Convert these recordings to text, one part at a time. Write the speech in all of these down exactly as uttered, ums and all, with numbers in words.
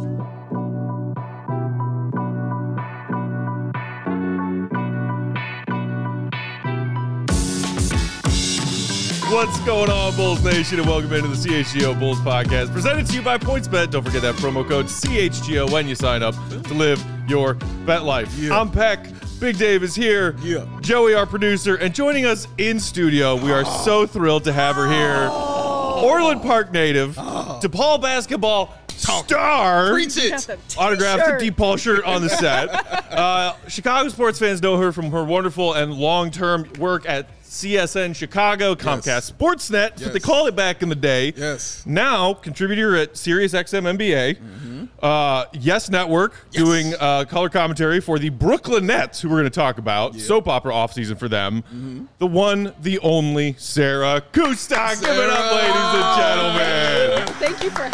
What's going on, Bulls Nation, and welcome into the C H G O Bulls Podcast, presented to you by PointsBet. Don't forget that promo code C H G O when you sign up to live your bet life. Yeah. I'm Peck. Big Dave is here. Yeah. Joey, our producer, and joining us in studio, we are oh. so thrilled to have her here. Oh. Orland Park native, oh. DePaul basketball star. Preach it. Autographed the DePaul shirt on the set. uh, Chicago sports fans know her from her wonderful and long-term work at C S N Chicago, Comcast yes. Sportsnet, yes. what they call it back in the day. Yes. Now, contributor at SiriusXM N B A, mm-hmm. uh, Yes Network, yes. doing uh, color commentary for the Brooklyn Nets, who we're going to talk about. Yeah. Soap opera offseason for them. Mm-hmm. The one, the only, Sarah Kustok. Give it up, ladies and gentlemen. Thank you for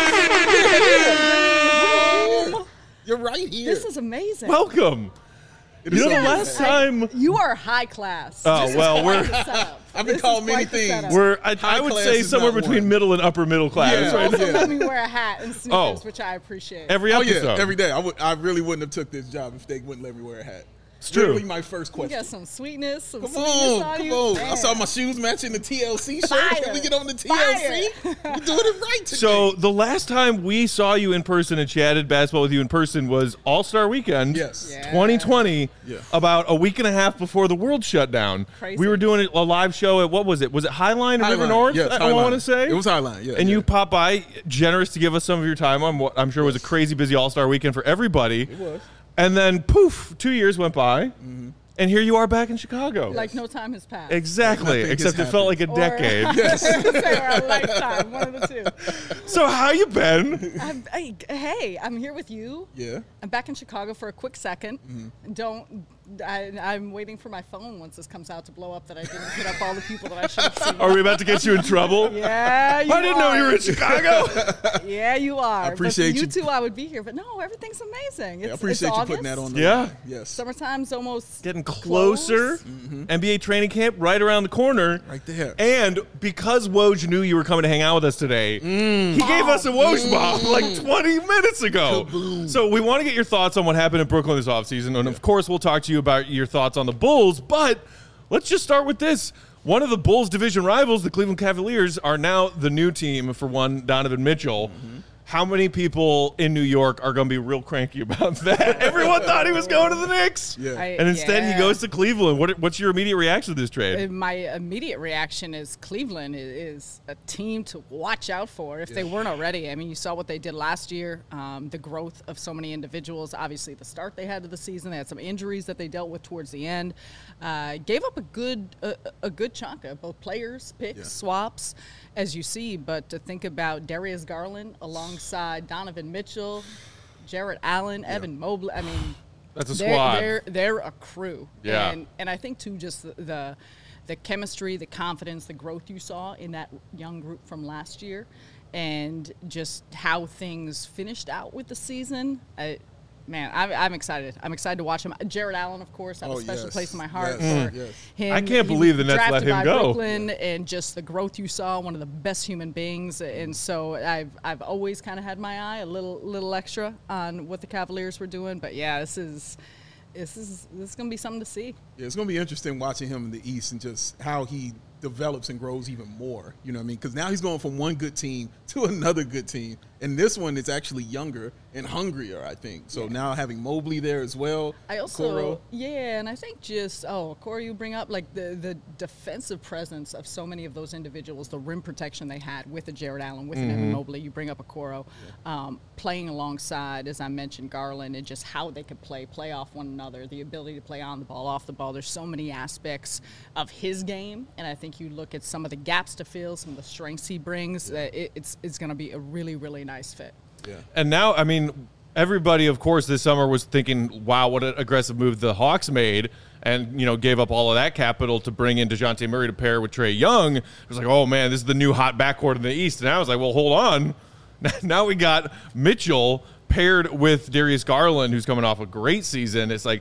having me. You're right here. This is amazing. Welcome. You know, the last time you are high class. Oh this well, we're. I've been called many things. We're. I, I would say somewhere between one. middle and upper middle class. Yeah. Right Also, now. let me wear a hat and sneakers, oh. which I appreciate. Every episode, oh, yeah, every day. I would. I really wouldn't have took this job if they wouldn't let me wear a hat. It's true. Literally my first question. You got some sweetness, some come sweetness on, on come you. on. Man. I saw my shoes matching the T L C shirt. Fire. Can we get on the T L C? We're doing it right today. So the last time we saw you in person and chatted basketball with you in person was All-Star Weekend, yes, yeah. twenty twenty. Yeah. About a week and a half before the world shut down. Crazy. We were doing a live show at what was it? Was it Highline in Highline. River North? Yes, I, Highline. I want to say it was Highline. Yeah, and yeah. you popped by, generous to give us some of your time on what I'm sure was a crazy busy All-Star Weekend for everybody. It was. And then poof, two years went by. Mm-hmm. And here you are back in Chicago. Like no time has passed. Exactly, except it felt like a or, decade. Yes. Or a lifetime, one of the two. So how you been? I'm, I, hey, I'm here with you. Yeah. I'm back in Chicago for a quick second. Mm-hmm. Don't. I, I'm waiting for my phone once this comes out to blow up that I didn't hit up all the people that I should have seen. Are we about to get you in trouble? Yeah, you I didn't are. know you were in Chicago. Yeah, you are. I appreciate but for you. you two, I would be here. But no, everything's amazing. It's, yeah, I appreciate it's you August. putting that on the Yeah. line. Yes. Summertime's almost getting closer. Mm-hmm. N B A training camp right around the corner. Right there. And because Woj knew you were coming to hang out with us today, mm. he gave us a Woj mm. bomb like twenty minutes ago. Kaboom. So we want to get your thoughts on what happened in Brooklyn this offseason. And, yeah. of course, we'll talk to you about your thoughts on the Bulls. But let's just start with this. One of the Bulls' division rivals, the Cleveland Cavaliers, are now the new team for one Donovan Mitchell. Mm-hmm. How many people in New York are going to be real cranky about that? Everyone thought he was going to the Knicks. Yeah. I, and instead yeah. he goes to Cleveland. What, what's your immediate reaction to this trade? My immediate reaction is Cleveland is a team to watch out for if yeah. they weren't already. I mean, you saw what they did last year, um, the growth of so many individuals. Obviously, the start they had to the season, they had some injuries that they dealt with towards the end. Uh, gave up a good a, a good chunk of both players, picks, yeah. swaps, as you see. But to think about Darius Garland alongside Donovan Mitchell, Jarrett Allen, yeah. Evan Mobley, I mean, that's a they're, squad. They're they're a crew. Yeah. And and I think too, just the, the the chemistry, the confidence, the growth you saw in that young group from last year, and just how things finished out with the season. I, Man, I'm, I'm excited. I'm excited to watch him. Jarrett Allen, of course, I have oh, a special yes. place in my heart yes. for yes. him. I can't believe the Nets let him by go. Brooklyn, and just the growth you saw, one of the best human beings. And so I've I've always kind of had my eye a little little extra on what the Cavaliers were doing. But yeah, this is this is this is gonna be something to see. Yeah, it's gonna be interesting watching him in the East and just how he develops and grows even more. You know what I mean? Because now he's going from one good team to another good team. And this one is actually younger and hungrier, I think. So yeah. now having Mobley there as well. I also, Okoro. yeah, and I think just, oh, Corey, you bring up, like, the, the defensive presence of so many of those individuals, the rim protection they had with a Jarrett Allen, with mm-hmm. an Evan Mobley. You bring up Okoro, yeah. um, playing alongside, as I mentioned, Garland, and just how they could play, play off one another, the ability to play on the ball, off the ball. There's so many aspects of his game, and I think you look at some of the gaps to fill, some of the strengths he brings, yeah. uh, it, it's, it's going to be a really, really nice fit. Yeah. And now, I mean, everybody, of course, this summer was thinking, wow, what an aggressive move the Hawks made, and, you know, gave up all of that capital to bring in DeJounte Murray to pair with Trae Young. It was like, oh, man, this is the new hot backcourt in the East. And I was like, well, hold on. Now we got Mitchell paired with Darius Garland, who's coming off a great season. It's like,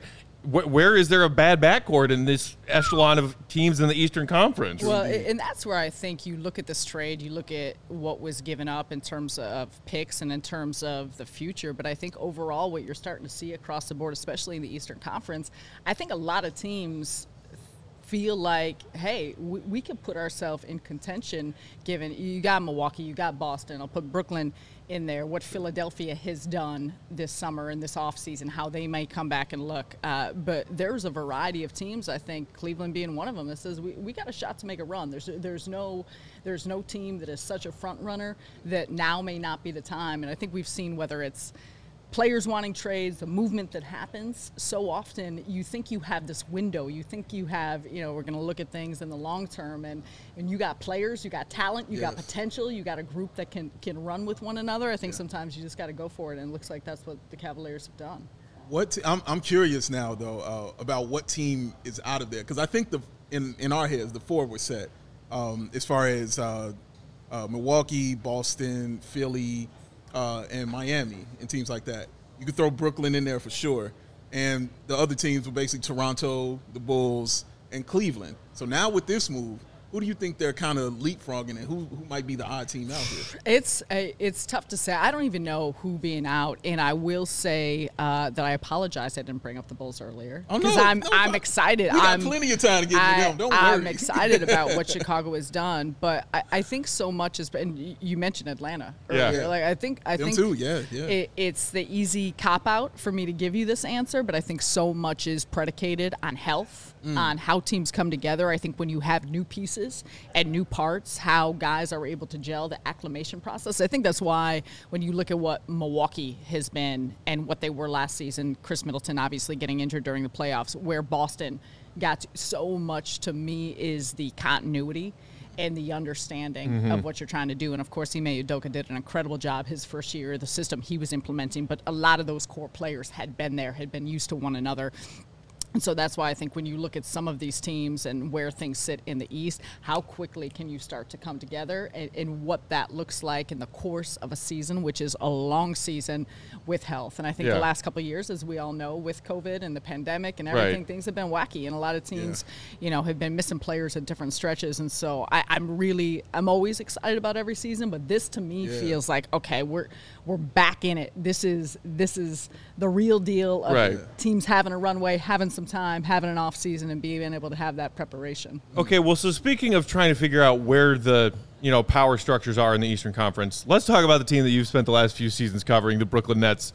wh- where is there a bad backcourt in this echelon of teams in the Eastern Conference? Well, and that's where I think you look at this trade, you look at what was given up in terms of picks and in terms of the future. But I think overall what you're starting to see across the board, especially in the Eastern Conference, I think a lot of teams feel like, hey, we, we can put ourselves in contention given you got Milwaukee, you got Boston. I'll put Brooklyn in there, what Philadelphia has done this summer and this offseason, how they may come back and look. Uh, but there's a variety of teams, I think, Cleveland being one of them, that says we, we got a shot to make a run. There's there's no there's no team that is such a front runner that now may not be the time. And I think we've seen whether it's players wanting trades, the movement that happens, so often you think you have this window. You think you have, you know, we're going to look at things in the long term, and, and you got players, you got talent, you yes. got potential, you got a group that can, can run with one another. I think yeah. sometimes you just got to go for it, and it looks like that's what the Cavaliers have done. What t- I'm, I'm curious now, though, uh, about what team is out of there, because I think the in, in our heads, the four were set um, as far as uh, uh, Milwaukee, Boston, Philly, Uh, and Miami and teams like that. You could throw Brooklyn in there for sure. And the other teams were basically Toronto, the Bulls, and Cleveland. So now with this move, who do you think they're kind of leapfrogging, and who who might be the odd team out here? It's a, it's tough to say. I don't even know who being out, and I will say uh, that I apologize I didn't bring up the Bulls earlier because oh, no, I'm no, I'm no. excited. We got I'm, plenty of time to get I, to them. Don't I'm worry. excited about what Chicago has done, but I, I think so much is. And you mentioned Atlanta earlier. Yeah. yeah. Like I think I them think too. Yeah, yeah. It, it's the easy cop out for me to give you this answer, but I think so much is predicated on health, mm. on how teams come together. I think when you have new pieces and new parts, how guys are able to gel, the acclimation process. I think that's why when you look at what Milwaukee has been and what they were last season, Chris Middleton obviously getting injured during the playoffs, where Boston got to, so much to me is the continuity and the understanding mm-hmm. of what you're trying to do. And, of course, Ime Udoka did an incredible job his first year, the system he was implementing, but a lot of those core players had been there, had been used to one another. And so that's why I think when you look at some of these teams and where things sit in the East, how quickly can you start to come together and, and what that looks like in the course of a season, which is a long season with health. And I think yeah. the last couple of years, as we all know, with COVID and the pandemic and everything, right. things have been wacky. And a lot of teams, yeah. you know, have been missing players at different stretches. And so I, I'm really, I'm always excited about every season, but this to me yeah. feels like, okay, we're we're back in it. This is this is the real deal of right. teams having a runway, having some time, having an off season, and being able to have that preparation. Okay, well, so speaking of trying to figure out where the you know power structures are in the Eastern Conference, let's talk about the team that you've spent the last few seasons covering, the Brooklyn Nets.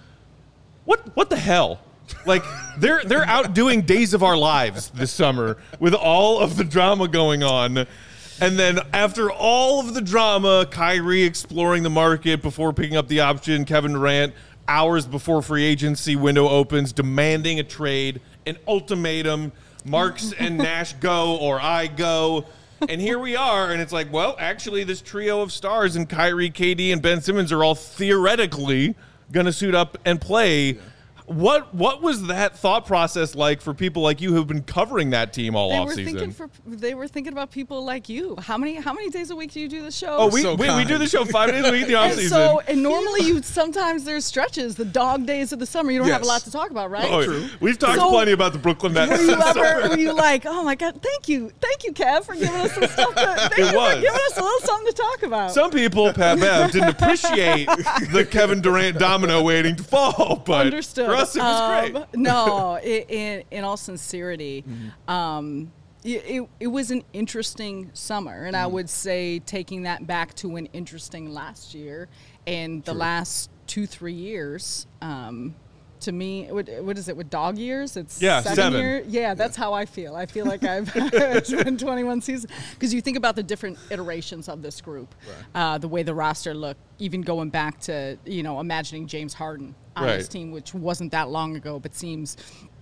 What what the hell? Like they're they're out doing Days of Our Lives this summer with all of the drama going on. And then after all of the drama, Kyrie exploring the market before picking up the option, Kevin Durant hours before free agency window opens, demanding a trade, an ultimatum, Marks and Nash go or I go. And here we are, and it's like, well, actually this trio of stars and Kyrie, K D, and Ben Simmons are all theoretically going to suit up and play. Yeah. What what was that thought process like for people like you who've been covering that team all they off were season? Thinking for, they were thinking about people like you. How many how many days a week do you do the show? Oh, we so we, we do the show five days a week in the off and season. So and normally you sometimes there's stretches, the dog days of the summer. You don't yes. have a lot to talk about, right? Oh, True. We've talked So, plenty about the Brooklyn Nets. Were you ever were you like, oh my God, thank you, thank you, Kev, for giving us some stuff. To, thank It you was. for giving us a little something to talk about. Some people, Pat Bev, didn't appreciate the Kevin Durant domino waiting to fall, but Understood. for us it was Um, great. No, in, in, in all sincerity, mm-hmm. um, it, it, it was an interesting summer. And mm-hmm. I would say taking that back to an interesting last year and the True. last two, three years, um, to me, what, what is it, with dog years? It's Yeah, seven, seven. year? Yeah, that's how I feel. I feel like I've it's been twenty-one seasons. Because you think about the different iterations of this group, Right. uh, the way the roster looked, even going back to, you know, imagining James Harden on Right. this team, which wasn't that long ago, but seems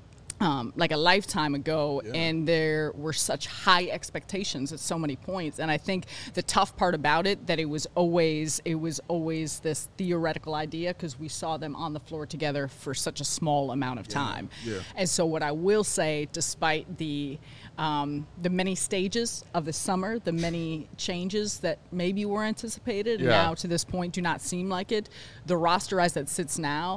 um, like a lifetime ago. Yeah. And there were such high expectations at so many points. And I think the tough part about it, that it was always, it was always this theoretical idea because we saw them on the floor together for such a small amount of time. Yeah. And so what I will say, despite the um, the many stages of the summer, the many changes that maybe were anticipated, and Yeah. now to this point do not seem like it, the roster as it sits now,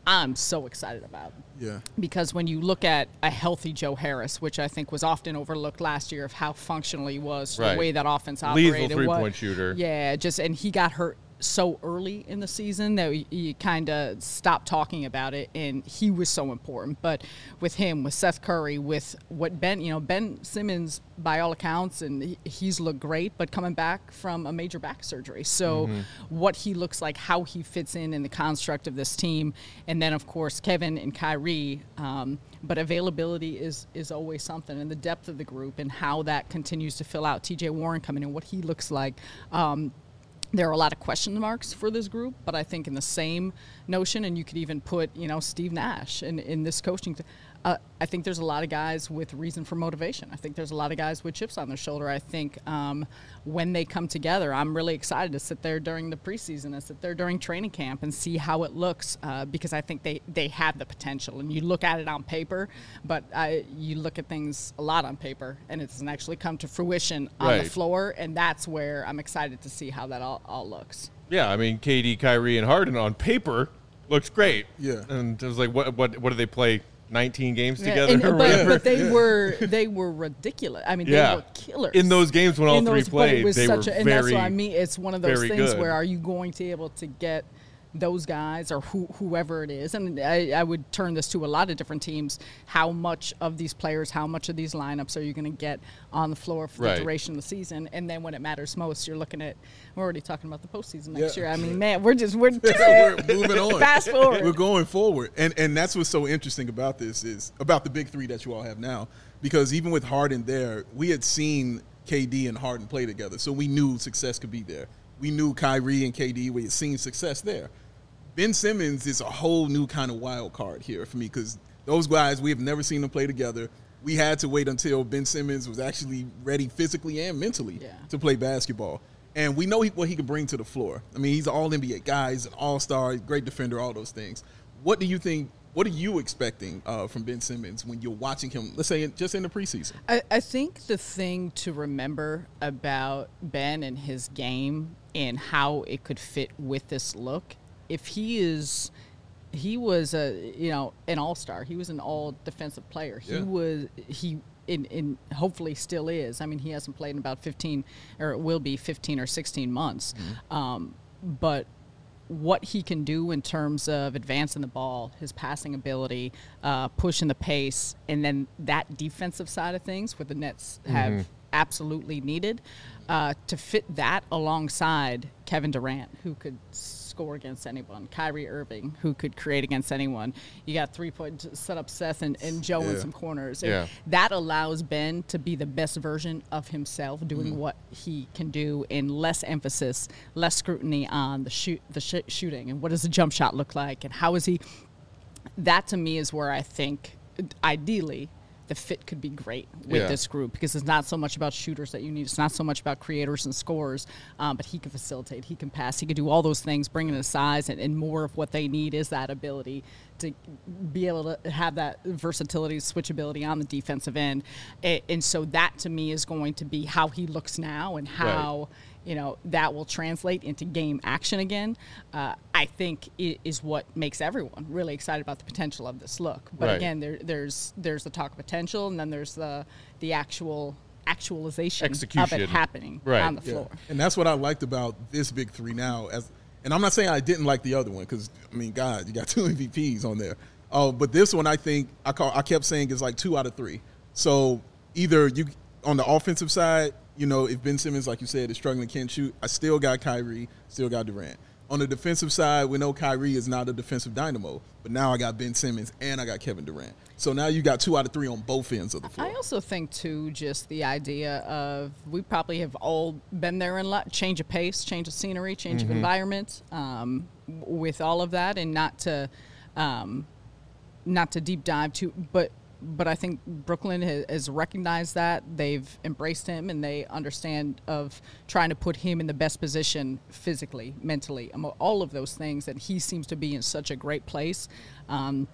I'm so excited about. Yeah. Because when you look at a healthy Joe Harris, which I think was often overlooked last year of how functional he was, Right. the way that offense operated. Lethal three-point what, shooter. Yeah, just and he got hurt so early in the season that you, you kind of stopped talking about it, and he was so important. But with him, with Seth Curry, with what Ben, you know, Ben Simmons, by all accounts, and he, he's looked great, but coming back from a major back surgery. So Mm-hmm. what he looks like, how he fits in in the construct of this team, and then, of course, Kevin and Kyrie. Um, but availability is is always something, and the depth of the group and how that continues to fill out. T J Warren coming in, what he looks like. Um, There are a lot of question marks for this group, but I think in the same notion, and you could even put, you know, Steve Nash in, in this coaching. T- uh, I think there's a lot of guys with reason for motivation. I think there's a lot of guys with chips on their shoulder. I think um, when they come together, I'm really excited to sit there during the preseason and sit there during training camp and see how it looks uh, because I think they, they have the potential. And you look at it on paper, but I, you look at things a lot on paper, and it doesn't actually come to fruition on Right. the floor, and that's where I'm excited to see how that all, all looks. Yeah, I mean, K D, Kyrie, and Harden on paper looks great. Yeah. And it was like, what what what do they play? nineteen games Yeah, together? and- or but, whatever? but they were they were ridiculous. I mean, they Yeah. were killers In those games when all In three those- but it played, was they such were a, and that's very, what I mean. It's one of those very things good. where are you going to be able to get those guys or who, whoever it is, and I, I would turn this to a lot of different teams. How much of these players, how much of these lineups are you going to get on the floor for Right. the duration of the season? And then when it matters most, you're looking at. We're already talking about the postseason next Yeah. year. I mean, man, we're just we're, We're moving on. Fast forward. We're going forward. And and that's what's so interesting about this is about the big three that you all have now. Because even with Harden there, we had seen K D and Harden play together. So we knew success could be there. We knew Kyrie and K D, we had seen success there. Ben Simmons is a whole new kind of wild card here for me because those guys, we have never seen them play together. We had to wait until Ben Simmons was actually ready physically and mentally Yeah. to play basketball. And we know he, what he can bring to the floor. I mean, he's an all N B A guy, he's an all-star, great defender, all those things. What do you think, what are you expecting uh, from Ben Simmons when you're watching him, let's say in, just in the preseason? I, I think the thing to remember about Ben and his game and how it could fit with this look, if he is, he was a, you know, an all-star. He was an all defensive player. He Yeah. was, he, in, in hopefully still is. I mean, he hasn't played in about fifteen, or it will be fifteen or sixteen months. Mm-hmm. Um, but what he can do in terms of advancing the ball, his passing ability, uh, pushing the pace, and then that defensive side of things where the Nets have absolutely needed, uh, to fit that alongside Kevin Durant, who could score against anyone, Kyrie Irving, who could create against anyone. You got three-point set up Seth and, and Joe in Yeah. some corners. Yeah. And that allows Ben to be the best version of himself, doing what he can do, and less emphasis, less scrutiny on the shoot, the sh- shooting, and what does the jump shot look like, and how is he. That to me is where I think, ideally, the fit could be great with Yeah. this group because it's not so much about shooters that you need. It's not so much about creators and scorers, um, but he can facilitate, he can pass, he can do all those things, bring in his size, and, and more of what they need is that ability to be able to have that versatility, switchability on the defensive end. And, and so that to me is going to be how he looks now and how you know, that will translate into game action again, uh, I think i- is what makes everyone really excited about the potential of this look. But Right. again, there, there's there's the talk of potential, and then there's the the actual actualization of Execution. it happening Right. on the Yeah. floor. And that's what I liked about this big three now. As and I'm not saying I didn't like the other one because I mean, God, you got two M V Ps on there. Oh, but this one I think I call I kept saying is like two out of three. So either you on the offensive side, you know, if Ben Simmons, like you said, is struggling, can't shoot, I still got Kyrie, still got Durant. On the defensive side, we know Kyrie is not a defensive dynamo, but now I got Ben Simmons and I got Kevin Durant. So now you got two out of three on both ends of the floor. I also think too, just the idea of we probably have all been there in life, change of pace, change of scenery, change of environment, um, w- with all of that, and not to, um, not to deep dive too, but. But I think Brooklyn has, has recognized that. They've embraced him, and they understand of trying to put him in the best position physically, mentally, emo- all of those things. And he seems to be in such a great place. Um,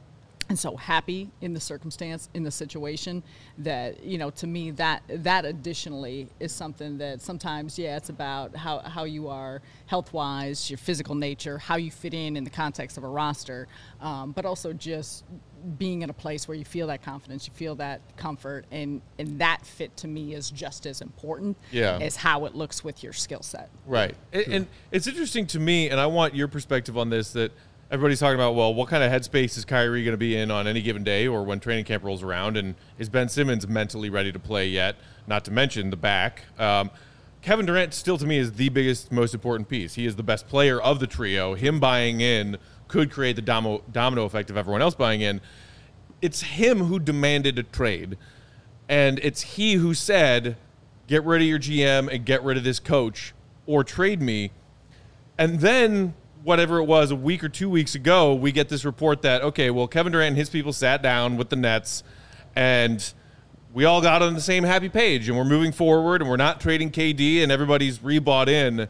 and so happy in the circumstance, in the situation, that, you know, to me, that that additionally is something that sometimes, yeah, it's about how, how you are health-wise, your physical nature, how you fit in in the context of a roster, um, but also just being in a place where you feel that confidence, you feel that comfort, and, and that fit to me is just as important yeah. as how it looks with your skill set. Right. And, and it's interesting to me, and I want your perspective on this, that everybody's talking about, well, what kind of headspace is Kyrie going to be in on any given day or when training camp rolls around? And is Ben Simmons mentally ready to play yet? Not to mention the back. Um, Kevin Durant still, to me, is the biggest, most important piece. He is the best player of the trio. Him buying in could create the domino, domino effect of everyone else buying in. It's him who demanded a trade. And it's he who said, get rid of your G M and get rid of this coach or trade me. And then whatever it was, a week or two weeks ago, we get this report that, okay, well, Kevin Durant and his people sat down with the Nets, and we all got on the same happy page, and we're moving forward, and we're not trading K D, and everybody's rebought in.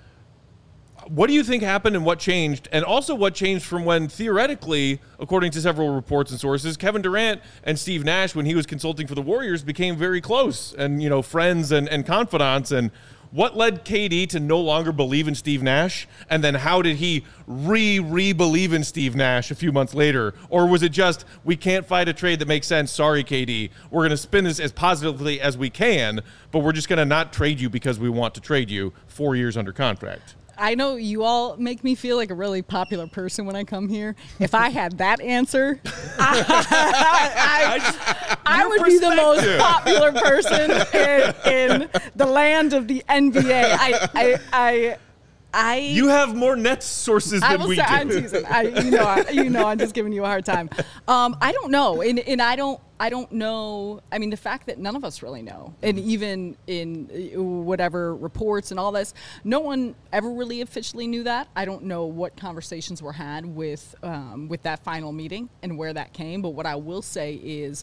What do you think happened and what changed? And also what changed from when, theoretically, according to several reports and sources, Kevin Durant and Steve Nash, when he was consulting for the Warriors, became very close and, you know, friends and, and confidants. And what led K D to no longer believe in Steve Nash? And then how did he re-re-believe in Steve Nash a few months later? Or was it just, we can't find a trade that makes sense, sorry, K D. We're going to spin this as positively as we can, but we're just going to not trade you because we want to trade you four years under contract? I know you all make me feel like a really popular person when I come here. If I had that answer, I, I, I, I would be the most popular person in, in the land of the N B A. I, I, I, I you have more Nets sources I than will we say, do. I'm teasing. I, you know, I, you know, I'm just giving you a hard time. Um, I don't know, and and I don't. I don't know. I mean, the fact that none of us really know, and even in whatever reports and all this, no one ever really officially knew that. I don't know what conversations were had with um, with that final meeting and where that came. But what I will say is,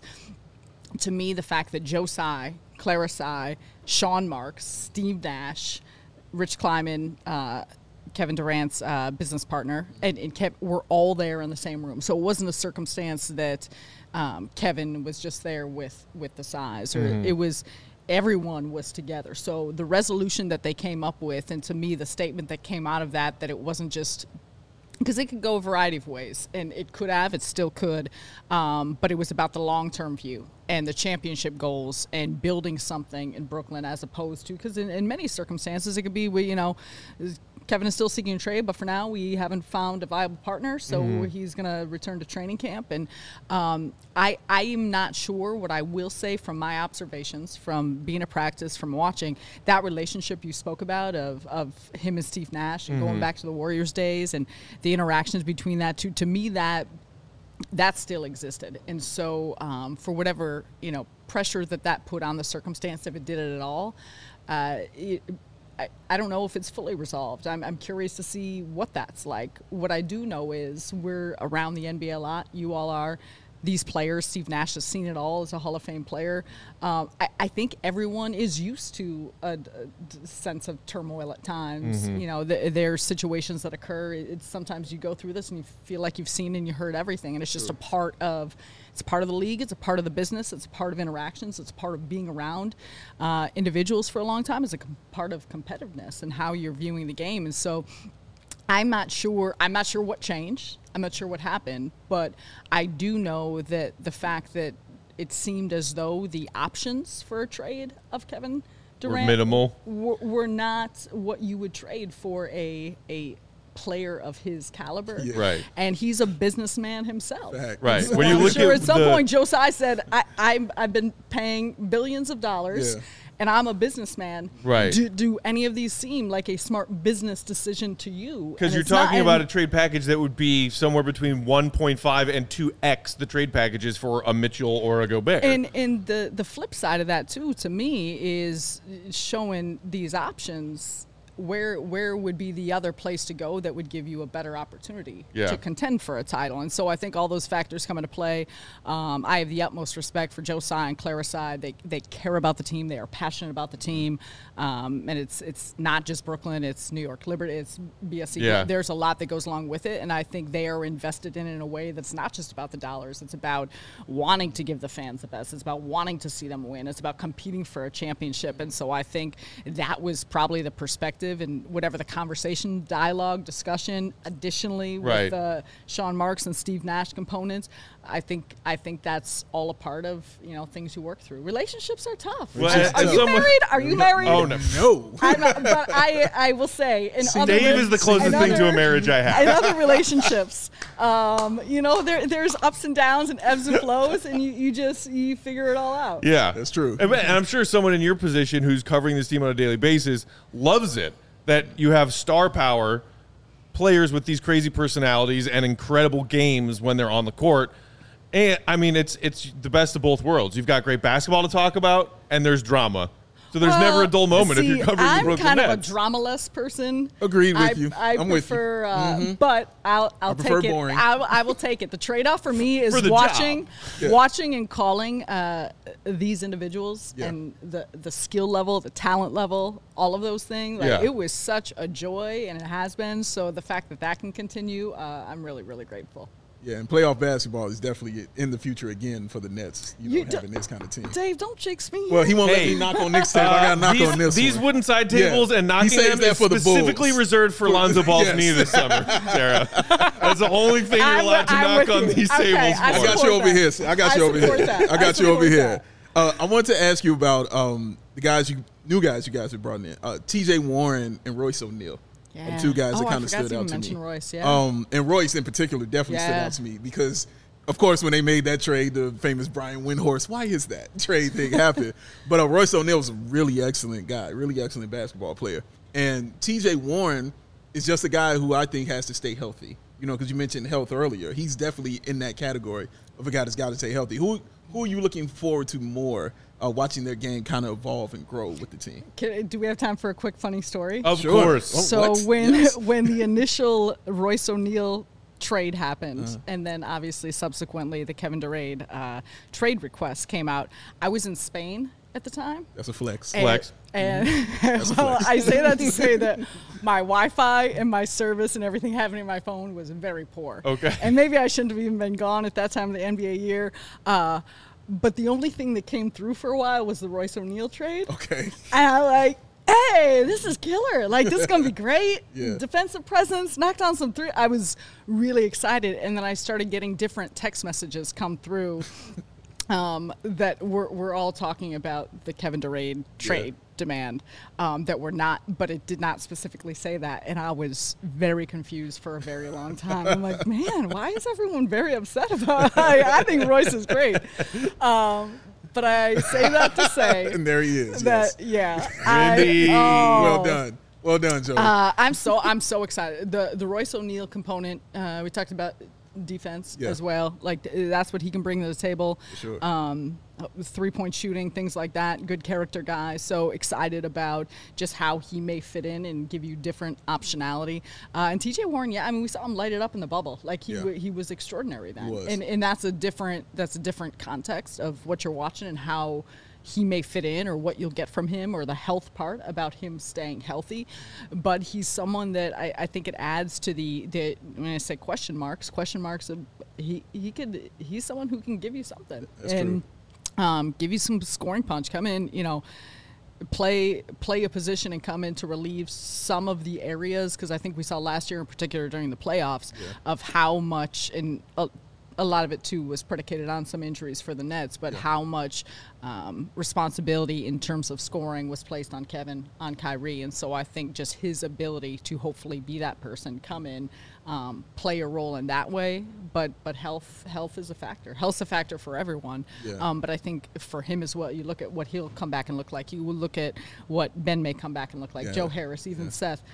to me, the fact that Joe Tsai, Clara Tsai, Sean Marks, Steve Nash, Rich Kleiman, uh, Kevin Durant's uh, business partner, and, and Kev were all there in the same room. So it wasn't a circumstance that um, Kevin was just there with, with the size, or mm-hmm. it was everyone was together. So the resolution that they came up with, and to me, the statement that came out of that, that it wasn't just because it could go a variety of ways, and it could have, it still could, um, but it was about the long-term view and the championship goals and building something in Brooklyn, as opposed to, because in, in many circumstances it could be, we, you know, Kevin is still seeking a trade, but for now we haven't found a viable partner, so mm-hmm. he's going to return to training camp. And um, I, I am not sure. What I will say from my observations, from being at practice, from watching, that relationship you spoke about of, of him and Steve Nash and mm-hmm. going back to the Warriors days and the interactions between that two, to me that that still existed. And so um, for whatever, you know, pressure that that put on the circumstance, if it did it at all, uh, it, I, I don't know if it's fully resolved. I'm, I'm curious to see what that's like. What I do know is we're around the N B A a lot. You all are. These players, Steve Nash has seen it all as a Hall of Fame player. Um, I, I think everyone is used to a, a sense of turmoil at times. Mm-hmm. You know, the, there are situations that occur. It's sometimes you go through this and you feel like you've seen and you heard everything, and it's just True. a part of It's part of the league. It's a part of the business. It's a part of interactions. It's part of being around uh, individuals for a long time. It's a com- part of competitiveness and how you're viewing the game. And so I'm not sure. I'm not sure what changed. I'm not sure what happened. But I do know that the fact that it seemed as though the options for a trade of Kevin Durant were minimal. Were, were not what you would trade for a a. player of his caliber, yeah. right? And he's a businessman himself, Fact. right? So when you I'm look sure at, at some the, point, Joe Tsai said, I, I'm, "I've been paying billions of dollars, yeah. and I'm a businessman. Right? Do, do any of these seem like a smart business decision to you?" Because you're talking not, about a trade package that would be somewhere between one point five and two x the trade packages for a Mitchell or a Gobert. And and the the flip side of that too, to me, is showing these options. where where would be the other place to go that would give you a better opportunity Yeah. to contend for a title? And so I think all those factors come into play. Um, I have the utmost respect for Joe Tsai and Clara Tsai. They they care about the team. They are passionate about the team. Um, and it's it's not just Brooklyn. It's New York Liberty. It's B S C. Yeah. There's a lot that goes along with it. And I think they are invested in it in a way that's not just about the dollars. It's about wanting to give the fans the best. It's about wanting to see them win. It's about competing for a championship. And so I think that was probably the perspective and whatever the conversation, dialogue, discussion, additionally Right. with uh, Sean Marks and Steve Nash components. I think I think that's all a part of, you know, things you work through. Relationships are tough. Well, are as you someone- married? Are you married? Oh, no. No. I'm not, but I I will say in See, other Dave is the closest in thing to a other- marriage I have. In other relationships, um, you know, there there's ups and downs and ebbs and flows, and you, you just you figure it all out. Yeah, That's true. And and I'm sure someone in your position who's covering this team on a daily basis loves it that you have star power players with these crazy personalities and incredible games when they're on the court. And I mean, it's it's the best of both worlds. You've got great basketball to talk about, and there's drama. So there's never a dull moment see, if you're covering I'm the Brooklyn kind Nets. of a dramaless person. Agreed with I, you. I I'm with you. prefer, uh, but I'll, I'll I prefer take boring. it. I, I will take it. The trade-off for me is For the watching, job. Yeah. watching and calling uh, these individuals Yeah. and the the skill level, the talent level, all of those things. Like, Yeah. It was such a joy, and it has been. So the fact that that can continue, uh, I'm really, really grateful. Yeah, and playoff basketball is definitely in the future again for the Nets, you know, You do- having this kind of team. Dave, don't jinx me. Well, he won't let Hey. me knock on Nick's table. I got to knock these, on this these one. wooden side Yeah. tables and He knocking saves them that is for the specifically Bulls. reserved for Lonzo Ball's Yes. knee this summer, Sarah. That's the only thing you're I'm- allowed to I'm knock with on you. these Okay, tables I for. I got support you over that. here. sir. I got I you over support here. that. I I got you over support here. that. Uh, I want to ask you about um, the guys, you new guys you guys have brought in. Uh, T J Warren and Royce O'Neal. Yeah. Are two guys Oh, that I kind of forgot stood to out even to mention me. Royce, yeah. Um, and Royce in particular definitely stood Yeah. out to me because, of course, when they made that trade, the famous Brian Windhorst, why is that trade thing happened? But uh, Royce O'Neal was a really excellent guy, really excellent basketball player. And T J Warren is just a guy who I think has to stay healthy. You know, because you mentioned health earlier. He's definitely in that category of a guy that's got to stay healthy. Who who are you looking forward to more uh, watching their game kind of evolve and grow with the team? Can, do we have time for a quick funny story? Of Sure. course. Oh, So what? when Yes. when the initial Royce O'Neal trade happened, Uh-huh. and then obviously subsequently the Kevin Durant uh, trade request came out, I was in Spain at the time. That's a flex. And- Flex. And a well, flex. I say that to say that my Wi-Fi and my service and everything happening on my phone was very poor. Okay. And maybe I shouldn't have even been gone at that time of the N B A year. Uh, but the only thing that came through for a while was the Royce O'Neal trade. Okay. And I'm like, hey, this is killer. Like, this is going to be great. Yeah. Defensive presence, knocked down some three. I was really excited. And then I started getting different text messages come through um, that were, were all talking about the Kevin Durant trade demand um, that were not, but it did not specifically say that. And I was very confused for a very long time. I'm like, man, why is everyone very upset about it? I, I think Royce is great. Um, but I say that to say And there he is. that Yes. yeah, Randy. I, oh, Well done. Well done, Joe. Uh, I'm so I'm so excited. The the Royce O'Neal component. Uh, we talked about defense Yeah. as well. Like th- that's what he can bring to the table. Sure. Um, three point shooting, things like that. Good character guy. So excited about just how he may fit in and give you different optionality. Uh, and T J Warren, yeah, I mean we saw him light it up in the bubble. Like he Yeah. w- he was extraordinary then. was. And and that's a different that's a different context of what you're watching and how he may fit in or what you'll get from him or the health part about him staying healthy. But he's someone that I, I think it adds to the, the when I say question marks, question marks, of, he, he could, he's someone who can give you something. That's and um, give you some scoring punch. Come in, you know, play play a position and come in to relieve some of the areas, because I think we saw last year in particular during the playoffs of how much, and a, a lot of it too was predicated on some injuries for the Nets, but how much um, responsibility in terms of scoring was placed on Kevin, on Kyrie. And so I think just his ability to hopefully be that person, come in, um, play a role in that way. But but health health is a factor. Health's a factor for everyone. Yeah. Um, but I think for him as well, you look at what he'll come back and look like. You will look at what Ben may come back and look like. Yeah. Joe Harris, even Yeah. Seth.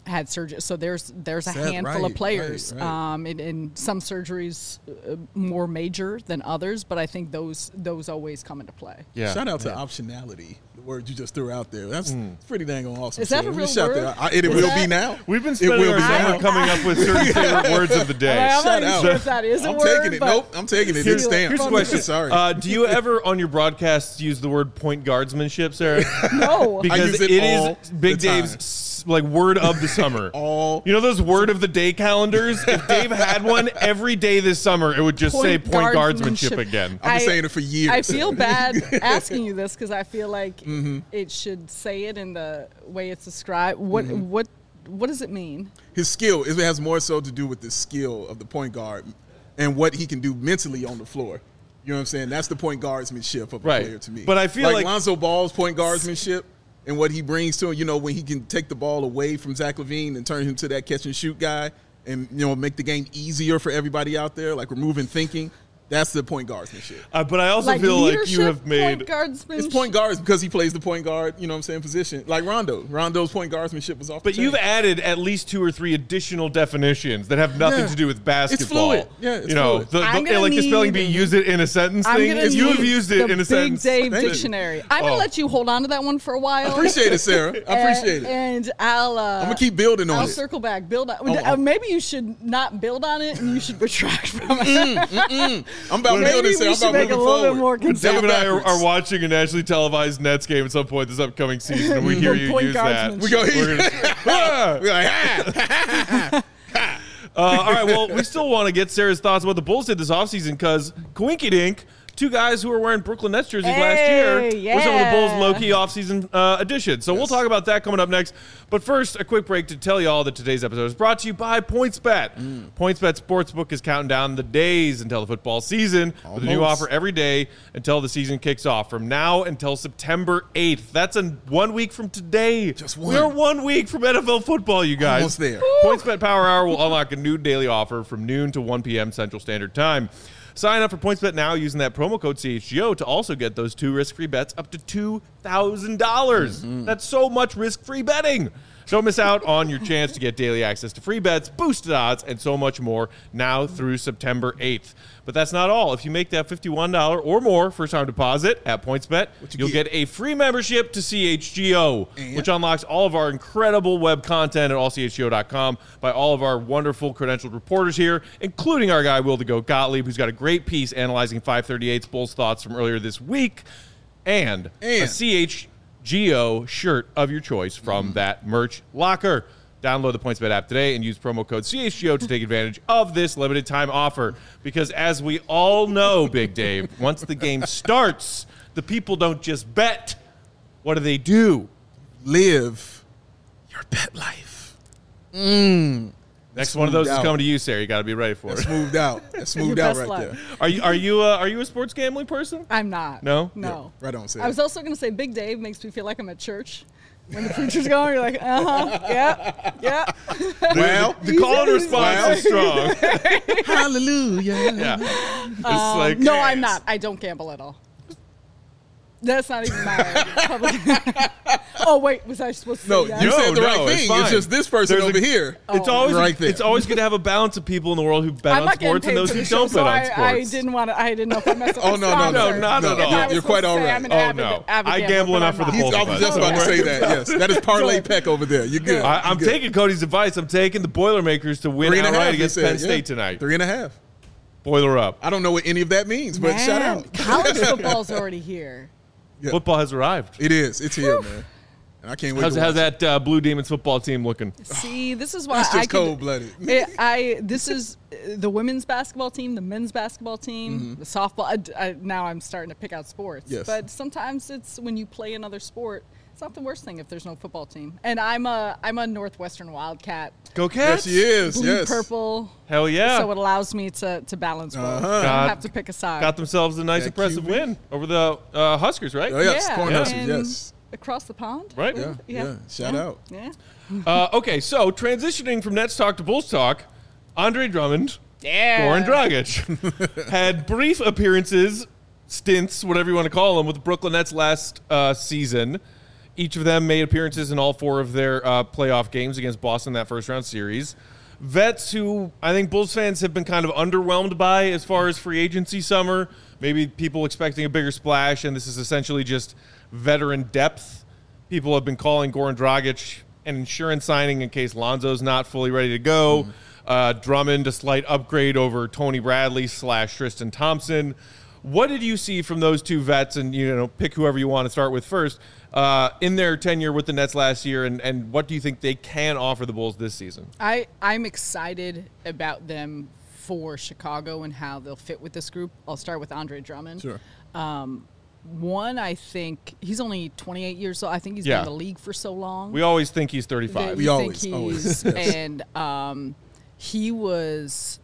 had surgery. So there's there's a Sad, handful right, of players, right, right. um, and, and some surgeries uh, more major than others, but I think those those always come into play. Yeah. Shout out to Yeah. optionality, the word you just threw out there. That's it's pretty dang on awesome. Is that Sarah. a Let me real shout word? that out. I- It, it Is will that- be now. We've been It spending will our be summer now. coming up with certain favorite words of the day. I'm Shout not even out. sure if that is a I'm word. taking it. but Nope, I'm taking it. Here's, It's stamped. here's a question. Sorry. Uh, do you ever on your broadcasts use the word point guardsmanship, Sarah? No. Because use it it all is Big the time. Dave's s- like word of the summer. All You know those word of the day calendars? If Dave had one every day this summer, it would just say point guardsmanship again. I've been saying it for years. I feel bad asking you this because I feel like Mm-hmm. it should say it in the way it's described. What Mm-hmm. what what does it mean? his skill. It has more so to do with the skill of the point guard and what he can do mentally on the floor. You know what I'm saying? That's the point guardsmanship of a Right. player to me. But I feel like- Lonzo Ball's point guardsmanship and what he brings to him, you know, when he can take the ball away from Zach LaVine and turn him to that catch and shoot guy and, you know, make the game easier for everybody out there, like removing thinking. That's the point guardsmanship. Uh, but I also Like feel like you leadership, have made. point guardsman. It's point guards because he plays the point guard, you know what I'm saying, position. Like Rondo. Rondo's point guardsmanship was off But the you've chain. added at least two or three additional definitions that have nothing Yeah. to do with basketball. fluid. Yeah, it's you know, fluid. the, the, I'm gonna like the spelling need- bee, use it in a sentence I'm thing. gonna You have need used it the in a Big sentence. Dave Thank you. dictionary. I'm gonna Oh. let you hold on to that one for a while. I appreciate it, Sarah. I appreciate it. And I'll. Uh, I'm gonna keep building on I'll it. circle back. Build on. Oh, uh, oh. maybe you should not build on it, and you should retract from it. I'm about Maybe building, we Sarah. I'm should about make it moving a little bit forward. more Never Dave and I are, backwards. are watching a nationally televised Nets game at some point this upcoming season, and we hear you Point use that. guardsmanship. We go We're here. gonna- Ah! We're like, ah. Uh, all right, well, we still want to get Sarah's thoughts about what the Bulls did this offseason because Coinky Dink, two guys who were wearing Brooklyn Nets jerseys last Hey, year, were some of the Bulls' yeah. low-key offseason uh, additions. So we'll talk about that coming up next. But first, a quick break to tell you all that today's episode is brought to you by PointsBet. Mm. PointsBet Sportsbook is counting down the days until the football season with a new Almost. offer every day until the season kicks off from now until September eighth. That's in one week from today. Just We're one. one week from N F L football, you guys. Almost there. PointsBet Power Hour will unlock a new daily offer from noon to one p.m. Central Standard Time. Sign up for PointsBet now using that promo code C H G O to also get those two risk-free bets up to two thousand dollars. Mm-hmm. That's so much risk-free betting. Don't miss out on your chance to get daily access to free bets, boosted odds, and so much more now through September eighth. But that's not all. If you make that fifty-one dollars or more first-time deposit at PointsBet, you you'll get? get a free membership to C H G O, And? which unlocks all of our incredible web content at all c h g o dot com by all of our wonderful credentialed reporters here, including our guy Will the Goat Gottlieb, who's got a great piece analyzing five thirty-eight's Bulls thoughts from earlier this week, and, a And? C H G O shirt of your choice from that merch locker. Download the PointsBet app today and use promo code C H G O to take advantage of this limited time offer. Because as we all know, Big Dave, once the game starts, the people don't just bet. What do they do? Live your bet life. Mm. Next one of those smoothed is out. coming to you, Sarah. You got to be ready for That's it. smoothed out. That's smoothed Your out best right luck. there. Are you are you uh, are you a sports gambling person? I'm not. No? No. Yeah, right on, Sarah. I was also going to say Big Dave makes me feel like I'm at church. When the preacher's going, you're like, uh-huh, yeah, yeah. Well, The call and response Well. is strong. hallelujah. Yeah. It's Um, like no, I'm not. I don't gamble at all. That's not even my public. Oh, wait, was I supposed to No, say yes? you No, said the no, right it's thing. fine. It's just this person There's a- over here. It's always Right there. it's always good to have a balance of people in the world who bet I'm on not getting sports and paid those for who the show, don't so bet on I, sports. I didn't want to. I didn't know if I messed up. Oh, my no, no, no. sponsor. not no, at all. If I You're, was you're quite supposed all to say right. I'm an Oh, avid- no. avid I gambler, gamble but enough I'm for the not. He's, both I of was us. just about to Don't say worry. that, yes. That is Parlay Good. Peck over there. You're good. I, I'm You're good. taking Cody's advice. I'm taking the Boilermakers to win Three and a half, outright he against said, Penn yeah. State tonight. Three and a half. Boiler up. I don't know what any of that means, but shout Man, out. college football's already here. Yeah. Football has arrived. It is. It's here, man. And I can't wait How's, to how's watch it. that uh, Blue Demons football team looking? See, this is why That's I just could- cold-blooded. It, I this is uh, the women's basketball team, the men's basketball team, the softball. I, I, now I'm starting to pick out sports, Yes. but sometimes it's when you play another sport. It's not the worst thing if there's no football team. And I'm a I'm a Northwestern Wildcat, Go Yes, Cats! he is. blue Yes. purple. Hell yeah! So it allows me to to balance both. Uh-huh. I Got- don't have to pick a side. Got themselves a nice, That impressive Q B. win over the uh, Huskers, right? Oh, yes. yeah, Cornhuskers, and yes. across the pond. Right. Yeah, yeah. Shout out. Yeah. Uh, okay, so transitioning from Nets talk to Bulls talk, Andre Drummond, Yeah. Goran Dragic had brief appearances, stints, whatever you want to call them, with the Brooklyn Nets last uh, season. Each of them made appearances in all four of their uh, playoff games against Boston that first round series. Vets who I think Bulls fans have been kind of underwhelmed by as far as free agency summer. Maybe people expecting a bigger splash, and this is essentially just veteran depth. People have been calling Goran Dragic an insurance signing in case Lonzo's not fully ready to go. Mm. Uh, Drummond, a slight upgrade over Tony Bradley slash Tristan Thompson. What did you see from those two vets, and you know, pick whoever you want to start with first, uh, in their tenure with the Nets last year, and, and what do you think they can offer the Bulls this season? I, I'm excited about them for Chicago and how they'll fit with this group. I'll start with Andre Drummond. Sure. Um, one, I think he's only twenty-eight years old. I think he's yeah. been in the league for so long. We always think he's thirty-five. We always, think always. he's, and um, he was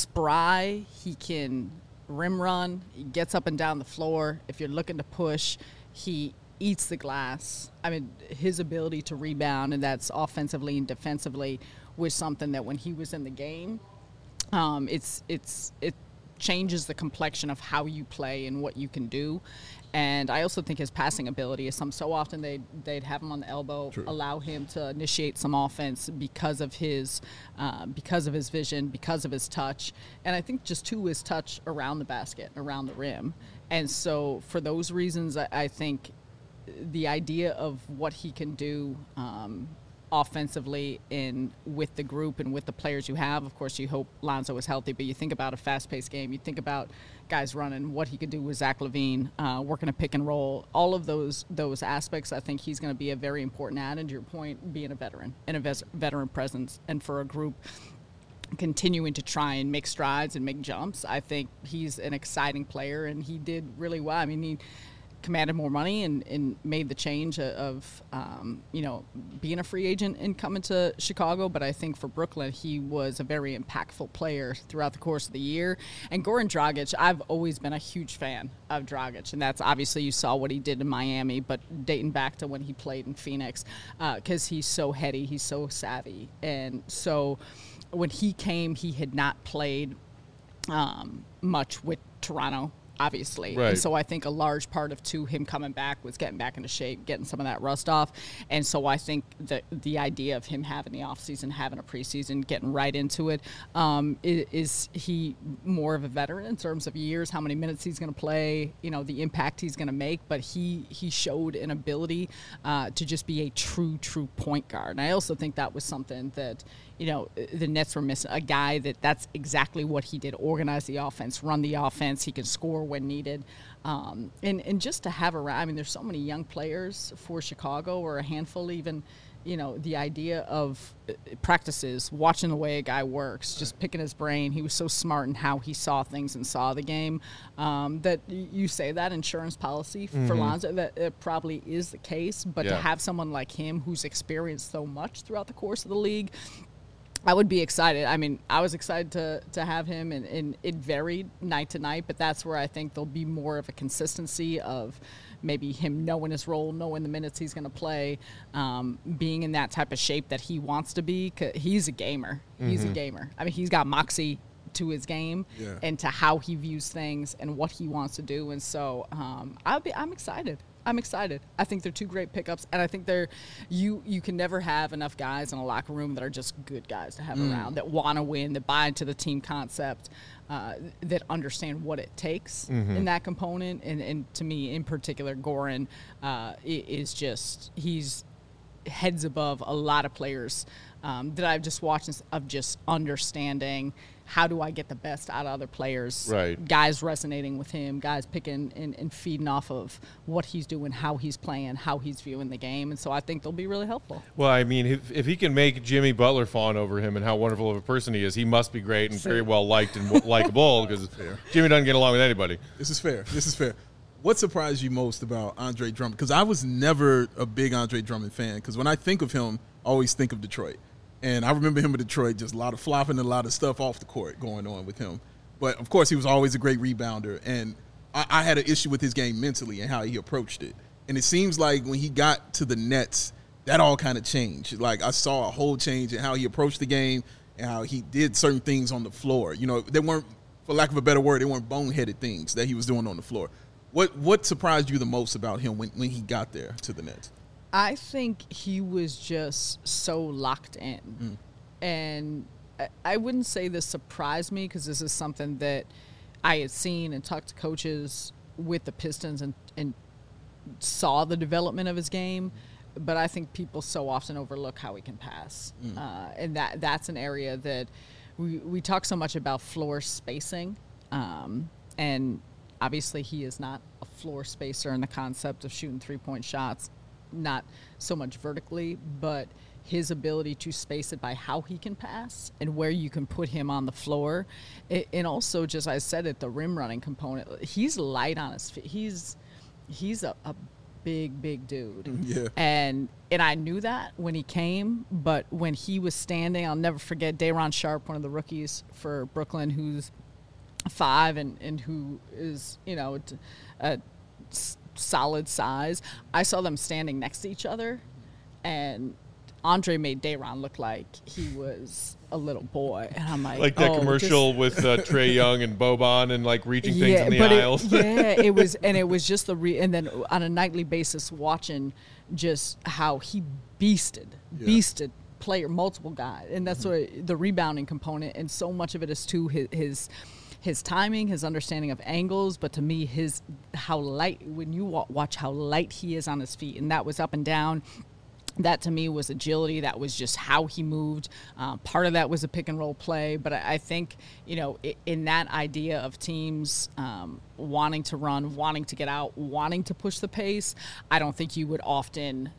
spry. He can rim run. He gets up and down the floor. If you're looking to push, he eats the glass. I mean, his ability to rebound, and that's offensively and defensively, was something that when he was in the game, um, it's it's it changes the complexion of how you play and what you can do. And I also think his passing ability is some. So often they'd, they'd have him on the elbow, True. allow him to initiate some offense because of his uh, because of his vision, because of his touch. And I think just too his touch around the basket, around the rim. And so for those reasons, I, I think the idea of what he can do um, offensively in with the group and with the players you have. Of course, you hope Lonzo is healthy, but you think about a fast-paced game. You think about guys running, what he could do with Zach LaVine, uh, working a pick and roll. All of those those aspects, I think he's going to be a very important add. And to your point, being a veteran and a ves- veteran presence, and for a group continuing to try and make strides and make jumps, I think he's an exciting player, and he did really well. I mean, he commanded more money and, and made the change of, um, you know, being a free agent and coming to Chicago. But I think for Brooklyn, he was a very impactful player throughout the course of the year. And Goran Dragic, I've always been a huge fan of Dragic. And that's obviously you saw what he did in Miami, but dating back to when he played in Phoenix, because uh, he's so heady, he's so savvy. And so when he came, he had not played um, much with Toronto, obviously. Right. And so I think a large part of, too, him coming back was getting back into shape, getting some of that rust off. And so I think that the idea of him having the offseason, having a preseason, getting right into it, um, is, is he more of a veteran in terms of years, how many minutes he's going to play, you know, the impact he's going to make. But he, he showed an ability uh, to just be a true, true point guard. And I also think that was something that, you know, the Nets were missing, a guy that that's exactly what he did, organize the offense, run the offense. He can score when needed. Um, and, and just to have around, I mean, there's so many young players for Chicago, or a handful even, you know, the idea of practices, watching the way a guy works, just picking his brain. He was so smart in how he saw things and saw the game, um, that you say that insurance policy for mm-hmm. Lonzo, that it probably is the case. But yeah. to have someone like him who's experienced so much throughout the course of the league, I would be excited. I mean, I was excited to to have him, and, and it varied night to night, but that's where I think there'll be more of a consistency of maybe him knowing his role, knowing the minutes he's going to play, um, being in that type of shape that he wants to be. 'Cause he's a gamer. He's mm-hmm. a gamer. I mean, he's got moxie to his game yeah. and to how he views things and what he wants to do. And so um, I'll be, I'm excited. I'm excited. I think they're two great pickups, and I think they're you you can never have enough guys in a locker room that are just good guys to have mm. around, that want to win, that buy into the team concept, uh, that understand what it takes mm-hmm. in that component. And, and to me, in particular, Goran uh, is just, he's heads above a lot of players um, that I've just watched, of just understanding how do I get the best out of other players, right. guys resonating with him, guys picking and, and feeding off of what he's doing, how he's playing, how he's viewing the game. And so I think they'll be really helpful. Well, I mean, if, if he can make Jimmy Butler fawn over him and how wonderful of a person he is, he must be great and very well liked and likable, because Jimmy doesn't get along with anybody. This is fair. This is fair. What surprised you most about Andre Drummond? Because I was never a big Andre Drummond fan, because when I think of him, I always think of Detroit. And I remember him in Detroit, just a lot of flopping and a lot of stuff off the court going on with him. But, of course, he was always a great rebounder. And I, I had an issue with his game mentally and how he approached it. And it seems like when he got to the Nets, that all kind of changed. Like, I saw a whole change in how he approached the game and how he did certain things on the floor. You know, they weren't, for lack of a better word, they weren't boneheaded things that he was doing on the floor. What what surprised you the most about him when, when he got there to the Nets? I think he was just so locked in. Mm. And I, I wouldn't say this surprised me because this is something that I had seen and talked to coaches with the Pistons and, and saw the development of his game. But I think people so often overlook how he can pass. Mm. Uh, and that that's an area that we, we talk so much about floor spacing. Um, and obviously he is not a floor spacer in the concept of shooting three-point shots, not so much vertically, but his ability to space it by how he can pass and where you can put him on the floor. It, and also, just as I said it, the rim running component, he's light on his feet. He's, he's a, a big, big dude. Yeah. And and I knew that when he came, but when he was standing, I'll never forget Day'Ron Sharpe, one of the rookies for Brooklyn, who's five and, and who is, you know, a, a solid size. I saw them standing next to each other, and Andre made Day'Ron look like he was a little boy, and I'm like, like that oh, commercial just, with uh, Trae Young and Boban and like reaching things yeah, in the but aisles. It, yeah, it was, and it was just the re, and then on a nightly basis watching just how he beasted, yeah. beasted player, multiple guys, and that's mm-hmm. what the rebounding component, and so much of it is to his. his his timing, his understanding of angles, but to me, his how light, when you watch how light he is on his feet, and that was up and down, that to me was agility. That was just how he moved. Uh, part of that was a pick and roll play, but I, I think, you know, in that idea of teams um, wanting to run, wanting to get out, wanting to push the pace, I don't think you would often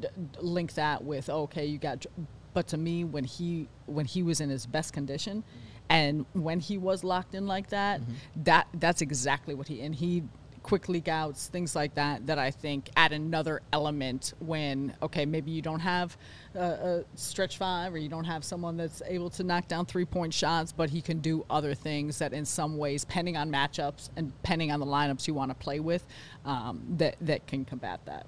link that with, okay, you got, but to me, when he when he was in his best condition, and when he was locked in like that, mm-hmm. that that's exactly what he, and he quick leak outs, things like that, that I think add another element when, okay, maybe you don't have a, a stretch five or you don't have someone that's able to knock down three-point shots, but he can do other things that in some ways, depending on matchups and depending on the lineups you want to play with, um, that, that can combat that.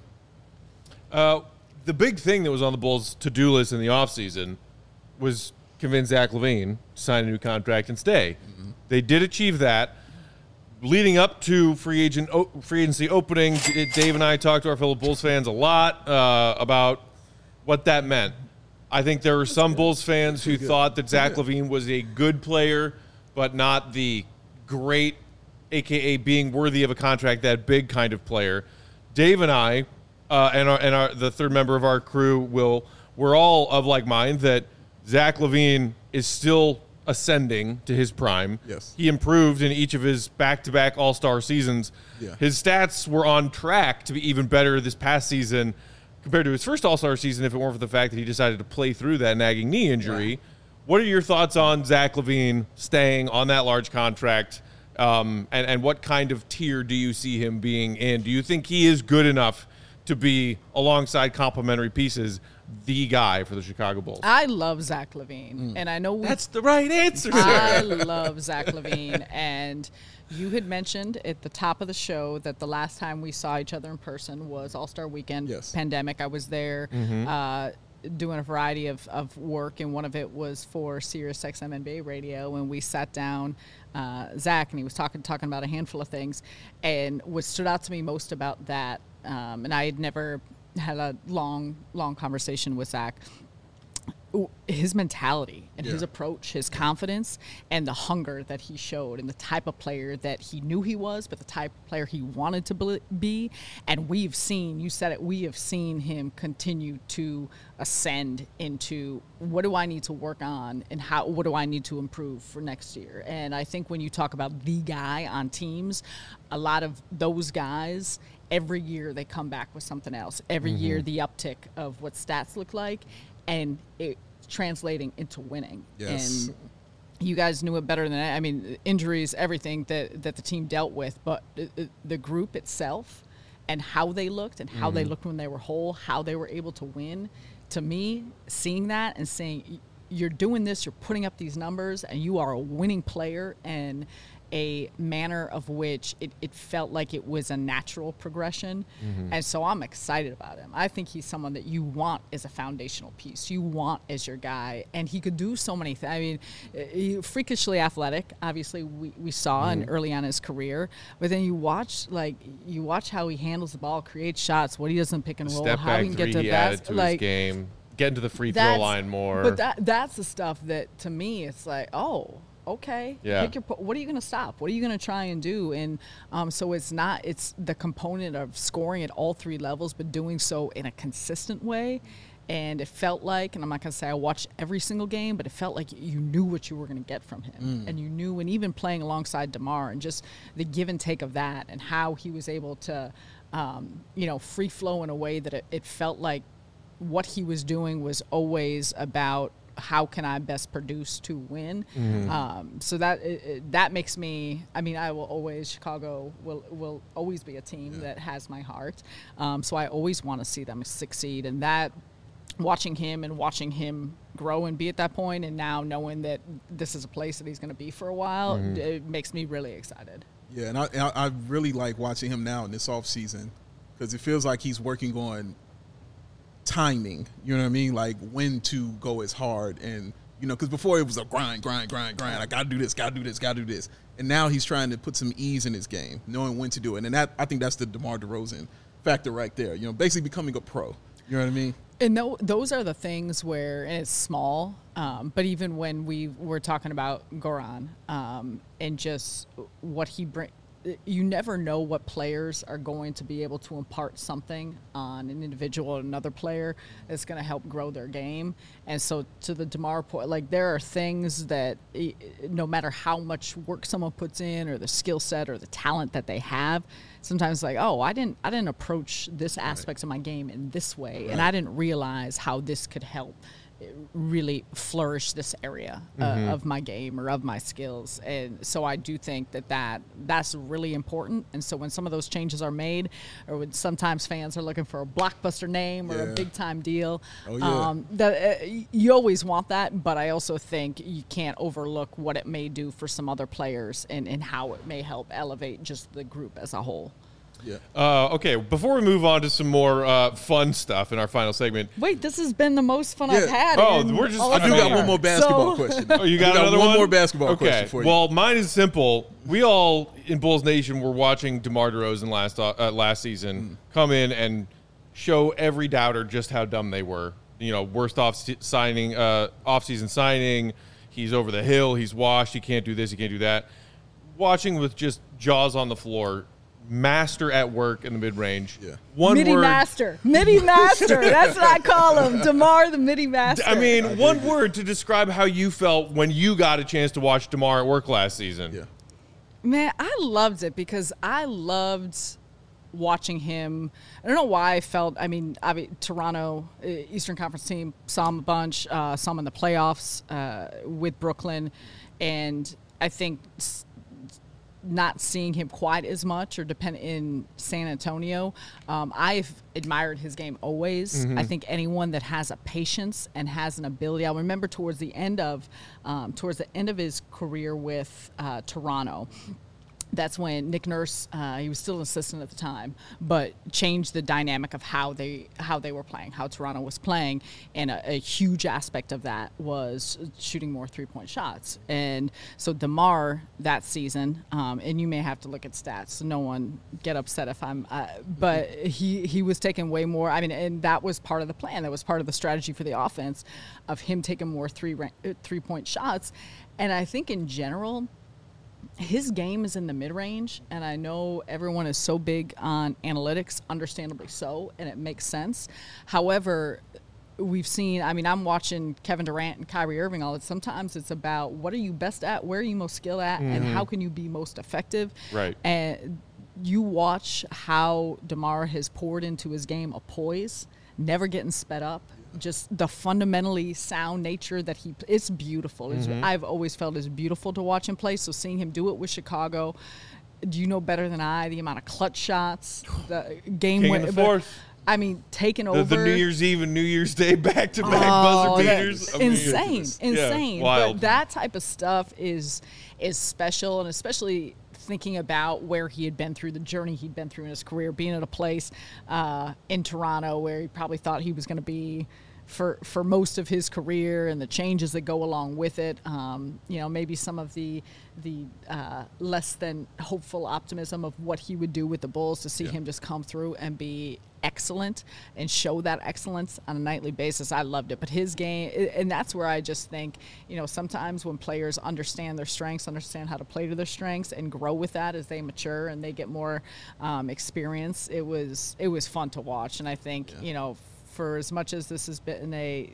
Yeah. Uh, the big thing that was on the Bulls' to-do list in the offseason was convince Zach LaVine to sign a new contract and stay. Mm-hmm. They did achieve that. Leading up to free agent free agency opening, Dave and I talked to our fellow Bulls fans a lot uh, about what that meant. I think there were some Bulls fans who thought that Zach LaVine was a good player, but not the great, a k a being worthy of a contract that big kind of player. Dave and I, uh, and our, and our, the third member of our crew, will we're all of like mind that Zach LaVine is still ascending to his prime. Yes. He improved in each of his back-to-back All-Star seasons. Yeah. His stats were on track to be even better this past season compared to his first All-Star season if it weren't for the fact that he decided to play through that nagging knee injury. Yeah. What are your thoughts on Zach LaVine staying on that large contract, um, and, and what kind of tier do you see him being in? Do you think he is good enough to be, alongside complementary pieces, the guy for the Chicago Bulls? I love Zach LaVine, mm. and I know we, that's the right answer. I love Zach LaVine, and you had mentioned at the top of the show that the last time we saw each other in person was All-Star Weekend. Yes. Pandemic. I was there mm-hmm. uh, doing a variety of, of work, and one of it was for Sirius X M N B A Radio, and we sat down, uh, Zach, and he was talking talking about a handful of things, and what stood out to me most about that, um, and I had never had a long, long conversation with Zach, his mentality and yeah. his approach, his confidence, and the hunger that he showed, and the type of player that he knew he was, but the type of player he wanted to be. And we've seen, you said it, we have seen him continue to ascend into what do I need to work on and how, what do I need to improve for next year. And I think when you talk about the guy on teams, a lot of those guys, every year they come back with something else. Every mm-hmm. year the uptick of what stats look like, and it translating into winning. Yes. And you guys knew it better than I. I mean, injuries, everything that, that the team dealt with, but the, the group itself and how they looked and how mm-hmm. they looked when they were whole, how they were able to win. To me, seeing that and saying, you're doing this, you're putting up these numbers, and you are a winning player, and a manner of which it, it felt like it was a natural progression. Mm-hmm. And so I'm excited about him. I think he's someone that you want as a foundational piece. You want as your guy. And he could do so many things. I mean, he, freakishly athletic, obviously, we, we saw mm-hmm. in early on in his career. But then you watch, like, you watch how he handles the ball, creates shots, what he does in pick and roll, Step how he can get to the best. To like, his game. Getting to the free throw line more. But that that's the stuff that, to me, it's like, oh, okay. Yeah. Pick your, what are you going to stop? What are you going to try and do? And um, so it's not, it's the component of scoring at all three levels, but doing so in a consistent way. And it felt like, and I'm not going to say I watched every single game, but it felt like you knew what you were going to get from him. Mm. And you knew, and even playing alongside DeMar and just the give and take of that and how he was able to, um, you know, free flow in a way that it, it felt like what he was doing was always about how can I best produce to win. Mm-hmm. Um, so that it, that makes me, I mean, I will always, Chicago will will always be a team yeah. that has my heart. Um, so I always want to see them succeed. And that, watching him and watching him grow and be at that point, and now knowing that this is a place that he's going to be for a while, mm-hmm. it makes me really excited. Yeah, and I, I really like watching him now in this offseason because it feels like he's working on timing, you know what I mean? Like when to go as hard, and you know, because before it was a grind, grind, grind, grind. I gotta do this, gotta do this, gotta do this, and now he's trying to put some ease in his game, knowing when to do it, and that I think that's the DeMar DeRozan factor right there. You know, basically becoming a pro. You know what I mean? And no, those are the things where, and it's small, um, but even when we were talking about Goran um, and just what he brings. You never know what players are going to be able to impart something on an individual or another player that's going to help grow their game. And so to the DeMar point, like there are things that no matter how much work someone puts in or the skill set or the talent that they have, sometimes like, oh, I didn't I didn't approach this aspect right. of my game in this way, right. and I didn't realize how this could help really flourish this area uh, mm-hmm. of my game or of my skills. And so I do think that, that that's really important. And so when some of those changes are made, or when sometimes fans are looking for a blockbuster name or yeah. a big time deal, oh, yeah. um, the, uh, you always want that, but I also think you can't overlook what it may do for some other players and, and how it may help elevate just the group as a whole. Yeah. Uh, okay, before we move on to some more uh, fun stuff in our final segment. Wait, this has been the most fun yeah. I've had. Oh, we're just. I do got one more basketball so, question. Oh, you got, got another one one? more basketball okay. question for you. Well, mine is simple. We all in Bulls Nation were watching DeMar DeRozan last uh, last season mm. come in and show every doubter just how dumb they were. You know, worst off signing, uh, off-season signing. He's over the hill. He's washed. He can't do this. He can't do that. Watching with just jaws on the floor. Master at work in the mid-range. Yeah. One midi word. master. Midi master. That's what I call him. DeMar the midi master. I mean, I one word to describe how you felt when you got a chance to watch DeMar at work last season. Yeah. Man, I loved it because I loved watching him. I don't know why I felt, I mean, I mean Toronto, Eastern Conference team, saw him a bunch, uh, saw him in the playoffs uh, with Brooklyn, and I think not seeing him quite as much or depend in San Antonio. Um, I've admired his game always. Mm-hmm. I think anyone that has a patience and has an ability. I remember towards the end of um, towards the end of his career with uh, Toronto. That's when Nick Nurse, uh, he was still an assistant at the time, but changed the dynamic of how they how they were playing, how Toronto was playing, and a, a huge aspect of that was shooting more three-point shots. And so DeMar that season, um, and you may have to look at stats, so no one get upset if I'm, uh, but he he was taking way more. I mean, and that was part of the plan. That was part of the strategy for the offense, of him taking more three three-point shots. And I think in general, his game is in the mid-range, and I know everyone is so big on analytics, understandably so, and it makes sense. However, we've seen, I mean, I'm watching Kevin Durant and Kyrie Irving all the time. Sometimes it's about what are you best at, where are you most skilled at, mm-hmm. and how can you be most effective. Right. And you watch how DeMar has poured into his game a poise, never getting sped up. Just the fundamentally sound nature that he, it's beautiful. It's, mm-hmm. I've always felt it's beautiful to watch him play. So seeing him do it with Chicago, do you know better than I the amount of clutch shots, the game King win- in the fourth. I mean, taking The, over the New Year's Eve and New Year's Day back-to-back Oh, buzzer that- beaters. I mean, insane, it's- yeah, insane. wild. But that type of stuff is is special, and especially thinking about where he had been through, the journey he'd been through in his career, being at a place uh, in Toronto where he probably thought he was going to be for for most of his career, and the changes that go along with it. Um, you know, maybe some of the the uh, less than hopeful optimism of what he would do with the Bulls, to see him just come through and be excellent and show that excellence on a nightly basis. I loved it. But his game, and that's where I just think, you know, sometimes when players understand their strengths, understand how to play to their strengths, and grow with that as they mature and they get more um, experience, it was it was fun to watch. And I think, yeah. you know, for as much as this has been a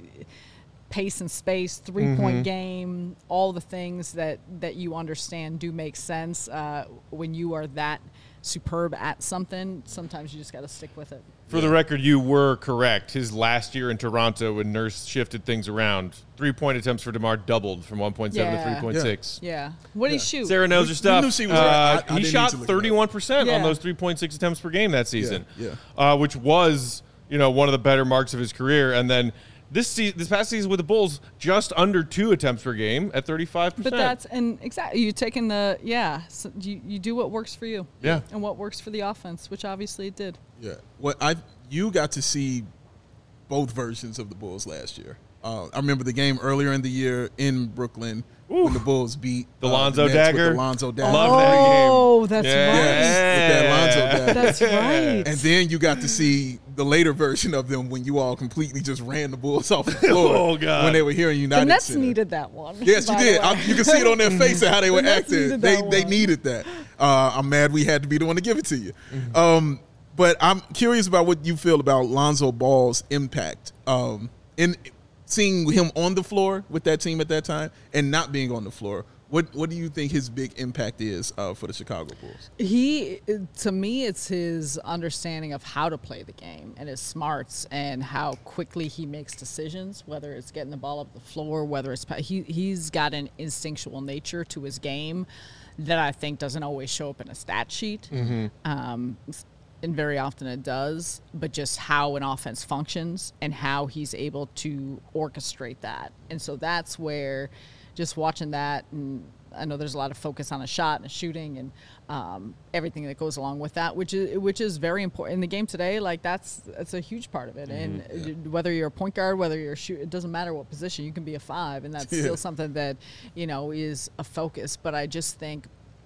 pace and space, three-point mm-hmm. game, all the things that, that you understand do make sense. Uh, when you are that superb at something, sometimes you just got to stick with it. For yeah. the record, you were correct. His last year in Toronto, when Nurse shifted things around, three-point attempts for DeMar doubled from one point seven yeah. to three point six. Yeah. yeah. What did yeah. he shoot? Sarah knows her stuff. Knew she was uh, right. I, I he shot thirty-one percent yeah. on those three point six attempts per game that season, yeah. Yeah. Uh, which was, you know, one of the better marks of his career. And then this se- this past season with the Bulls, just under two attempts per game at thirty-five percent. But that's, and exactly, you taking the, yeah, so you, you do what works for you. Yeah. And what works for the offense, which obviously it did. Yeah. What I you got to see both versions of the Bulls last year. Uh, I remember the game earlier in the year in Brooklyn Ooh. when the Bulls beat the uh, Lonzo the dagger. The Lonzo dagger. Love oh, that game. Oh, that's yeah. right. Yes, with that Lonzo dagger. That's right. And then you got to see the later version of them when you all completely just ran the Bulls off the floor. Oh, God. When they were here in United The Nets Center. needed that one. Yes, you did. I, you can see it on their face and how they were The Nets acting. needed They that they one. needed that. Uh, I'm mad we had to be the one to give it to you. Mm-hmm. Um, but I'm curious about what you feel about Lonzo Ball's impact um, in seeing him on the floor with that team at that time and not being on the floor. What what do you think his big impact is uh, for the Chicago Bulls? He, to me, it's his understanding of how to play the game and his smarts and how quickly he makes decisions, whether it's getting the ball up the floor, whether it's he he's got an instinctual nature to his game that I think doesn't always show up in a stat sheet. Mm-hmm. Um, and very often it does, but just how an offense functions and how he's able to orchestrate that. And so that's where just watching that, and I know there's a lot of focus on a shot and a shooting and um, everything that goes along with that, which is which is very important in the game today. Like that's that's a huge part of it. Mm-hmm. And yeah. whether you're a point guard, whether you're a shoot, it doesn't matter what position. You can be a five, and that's yeah. still something that, you know, is a focus. But I just think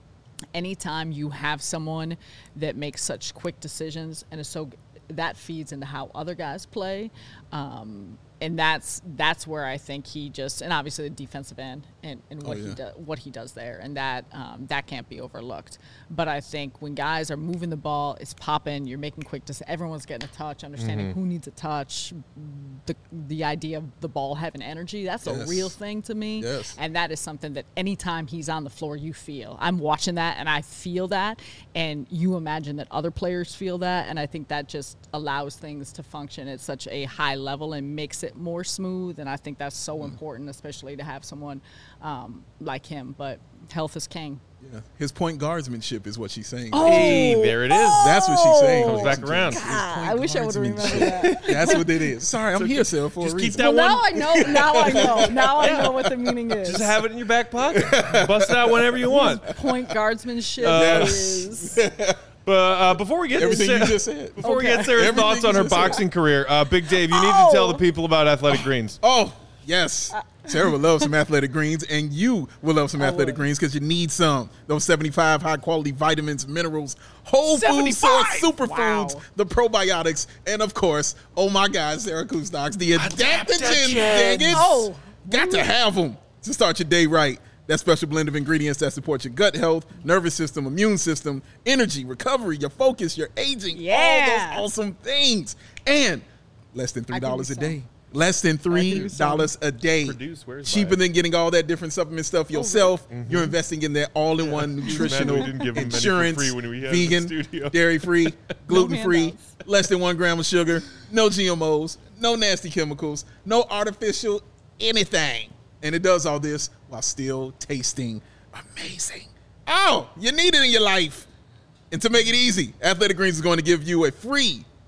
anytime you have someone that makes such quick decisions and is so, that feeds into how other guys play. Um, and that's that's where I think he just, and obviously the defensive end and, and what oh, yeah. he does what he does there, and that um, that can't be overlooked. But I think when guys are moving the ball, it's popping, you're making quick decisions, everyone's getting a touch, understanding mm-hmm. who needs a touch, the the idea of the ball having energy, that's yes. a real thing to me. Yes. And that is something that anytime he's on the floor, you feel. I'm watching that and I feel that, and you imagine that other players feel that, and I think that just allows things to function at such a high level and makes it more smooth, and I think that's so mm. important, especially to have someone um, like him. But health is king. Yeah, his point guardsmanship is what she's saying. Oh, hey, there it is. Oh, that's what she's saying. Comes back around. God, I wish I would have remembered that. That's what it is. Sorry, I'm so here, Sarah, for just a keep reason. that well, one. now I know. Now I know. Now I know what the meaning is. Just have it in your back pocket. Bust it out whenever you want. Point guardsmanship Uh, is. But uh, before we get everything to Sarah, you just said, before Okay. we get Sarah's Everything thoughts on you her just boxing said. career, uh, Big Dave, you need Oh. to tell the people about Athletic Greens. Oh, yes. Sarah would love some Athletic Greens, and you will love some I Athletic would. Greens because you need some. Those seventy-five high-quality vitamins, minerals, whole food source seventy-five! superfoods, Wow. the probiotics, and, of course, oh, my God, Sarah Kusnox, the adaptogens. Adaptogens. Dang it. Oh. Got to have them to start your day right. That special blend of ingredients that support your gut health, nervous system, immune system, energy, recovery, your focus, your aging, Yeah. all those awesome things. And less than three dollars a I can do day. Less than three dollars a day. Produce, where's Cheaper that? than getting all that different supplement stuff yourself. Mm-hmm. You're investing in that all-in-one nutritional, we didn't give him many for insurance, free when we had him in the vegan, studio. dairy-free, gluten-free, handouts. less than one gram of sugar, no G M Os, no nasty chemicals, no artificial anything. And it does all this while still tasting amazing. Oh, you need it in your life. And to make it easy, Athletic Greens is going to give you a free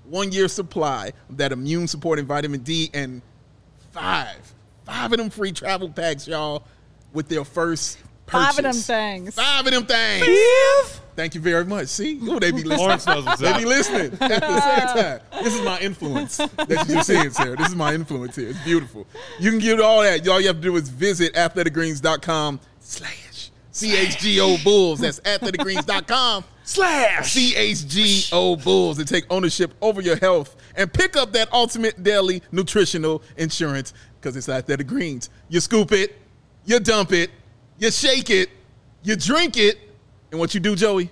one-year supply of that immune-supporting vitamin D and five, five of them free travel packs, y'all, with their first purchase. Five of them things. Five of them things. Thank you very much. See? Oh, they be listening. Lawrence knows what's They up. be listening at the same time. This is my influence that you're just seeing, Sarah. This is my influence here. It's beautiful. You can get all that. All you have to do is visit athletic greens dot com slash C H G O Bulls. That's athletic greens dot com slash C H G O Bulls and take ownership over your health and pick up that ultimate daily nutritional insurance because it's Athletic Greens. You scoop it, you dump it, you shake it, you drink it, and what you do, Joey?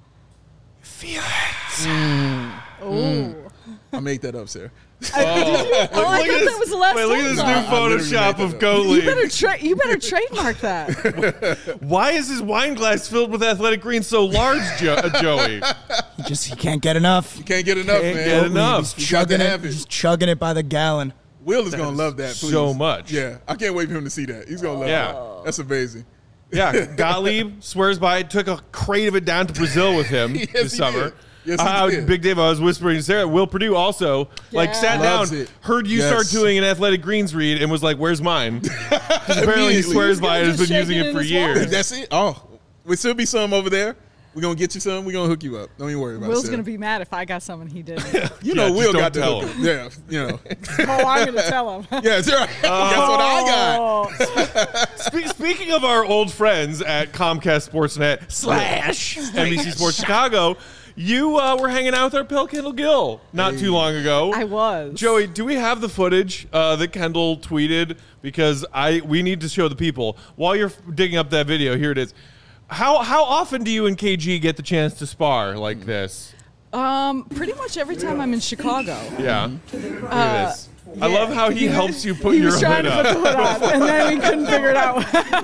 Feel it. Oh. I made that up, Sarah. Oh, I thought that was the last Wait, look at time, this though. new I literally Photoshop made of that up. Goat You League. better, tra- you better trademark that. Why is his wine glass filled with Athletic Greens so large, jo- uh, Joey? He just he can't get enough. You can't get enough, Can't man. get enough. He's You got to chugging have it. it. He's chugging it by the gallon. Will is going to love that, please. so much. Yeah, I can't wait for him to see that. He's going to love Yeah. that. That's amazing. Yeah, Gottlieb swears by it. Took a crate of it down to Brazil with him Yes, this he summer. did. Yes, he Uh, did. Big Dave, I was whispering to Sarah. Will Purdue also like Yeah. sat Loves down, it. heard you Yes. start doing an Athletic Greens read, and was like, "Where's mine?" 'Cause apparently he Immediately. swears He's by it. gonna Has been just shake using it it in for his years. wallet. That's it. Oh, there should be some over there. We're going to get you some. We're going to hook you up. Don't even worry about it. Will's Sarah. going to be mad if I got some and he didn't. You Yeah, know, just Will don't got to tell hook him. Yeah, you know. Oh, I'm going to tell him. Yeah, that's right. That's what I got. Oh, Spe- speaking of our old friends at Comcast Sportsnet slash N B C Sports Chicago, you uh, were hanging out with our pal Kendall Gill not too long ago. I was. Joey, do we have the footage uh, that Kendall tweeted? Because I we need to show the people. While you're digging up that video, here it is. How how often do you and K G get the chance to spar like this? Um, pretty much every time I'm in Chicago. Yeah. Look at this. I yeah. love how he helps you put he your was trying hood to put up. the hood on, and then we couldn't figure it out.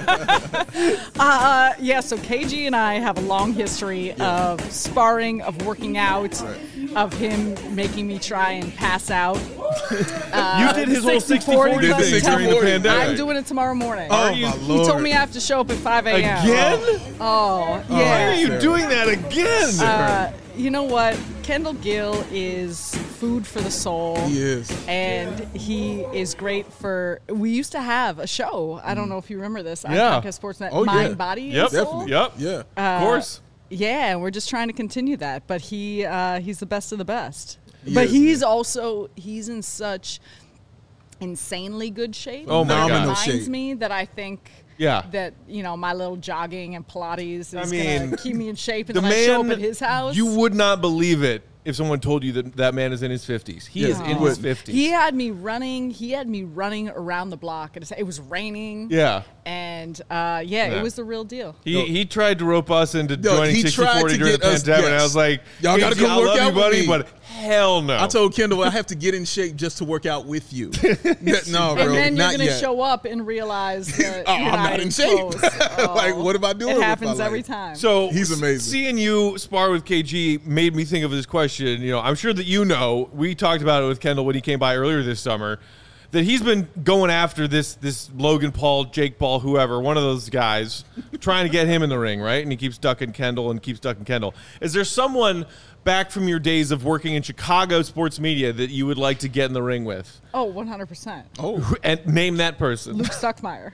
uh, yeah, so K G and I have a long history of sparring, of working out, of him making me try and pass out. You did his whole sixty sixty forty forty thing during the forty. pandemic. I'm doing it tomorrow morning. Oh, you- my he He Lord. told me I have to show up at five a.m. Again? Oh, Why yeah. are you Sarah. doing that again? Uh, you know what? Kendall Gill is food for the soul. He is. And he is great for. We used to have a show. I don't know if you remember this on Yeah. Comcast Sportsnet. Oh, Mind, yeah. Body, Yep. and Soul. Definitely. Yep. Yeah. Of course. Yeah, and we're just trying to continue that. But he uh, he's the best of the best. He but is, he's man. also he's in such insanely good shape. Oh, my that God. reminds shape. me that I think. Yeah. That you know my little jogging and Pilates is I mean, gonna keep me in shape, and The then I show up man, at his house. you would not believe it if someone told you that that man is in his fifties. He Yeah, is you in his wouldn't. fifties. He had me running. He had me running around the block. It was raining. yeah. And uh, yeah, Yeah. it was the real deal. He, No. he tried to rope us into No, joining he sixty tried forty to during the get us- pandemic, and I yes. was like, Y'all gotta "K G, come I work love out you, with buddy, me." but hell no. I told Kendall I have to get in shape just to work out with you. That- no, bro, and then you're not gonna yet. show up and realize that Oh, you're I'm not in shape. close. Like, Oh, what am I doing It with my happens every life? time. So He's amazing. Seeing you spar with K G made me think of this question. You know, I'm sure that you know. We talked about it with Kendall when he came by earlier this summer. That he's been going after this this Logan Paul, Jake Paul, whoever, one of those guys, trying to get him in the ring, right? And he keeps ducking Kendall and keeps ducking Kendall. Is there someone back from your days of working in Chicago sports media that you would like to get in the ring with? oh, one hundred percent. Oh, And name that person. Luke Stuckmeyer.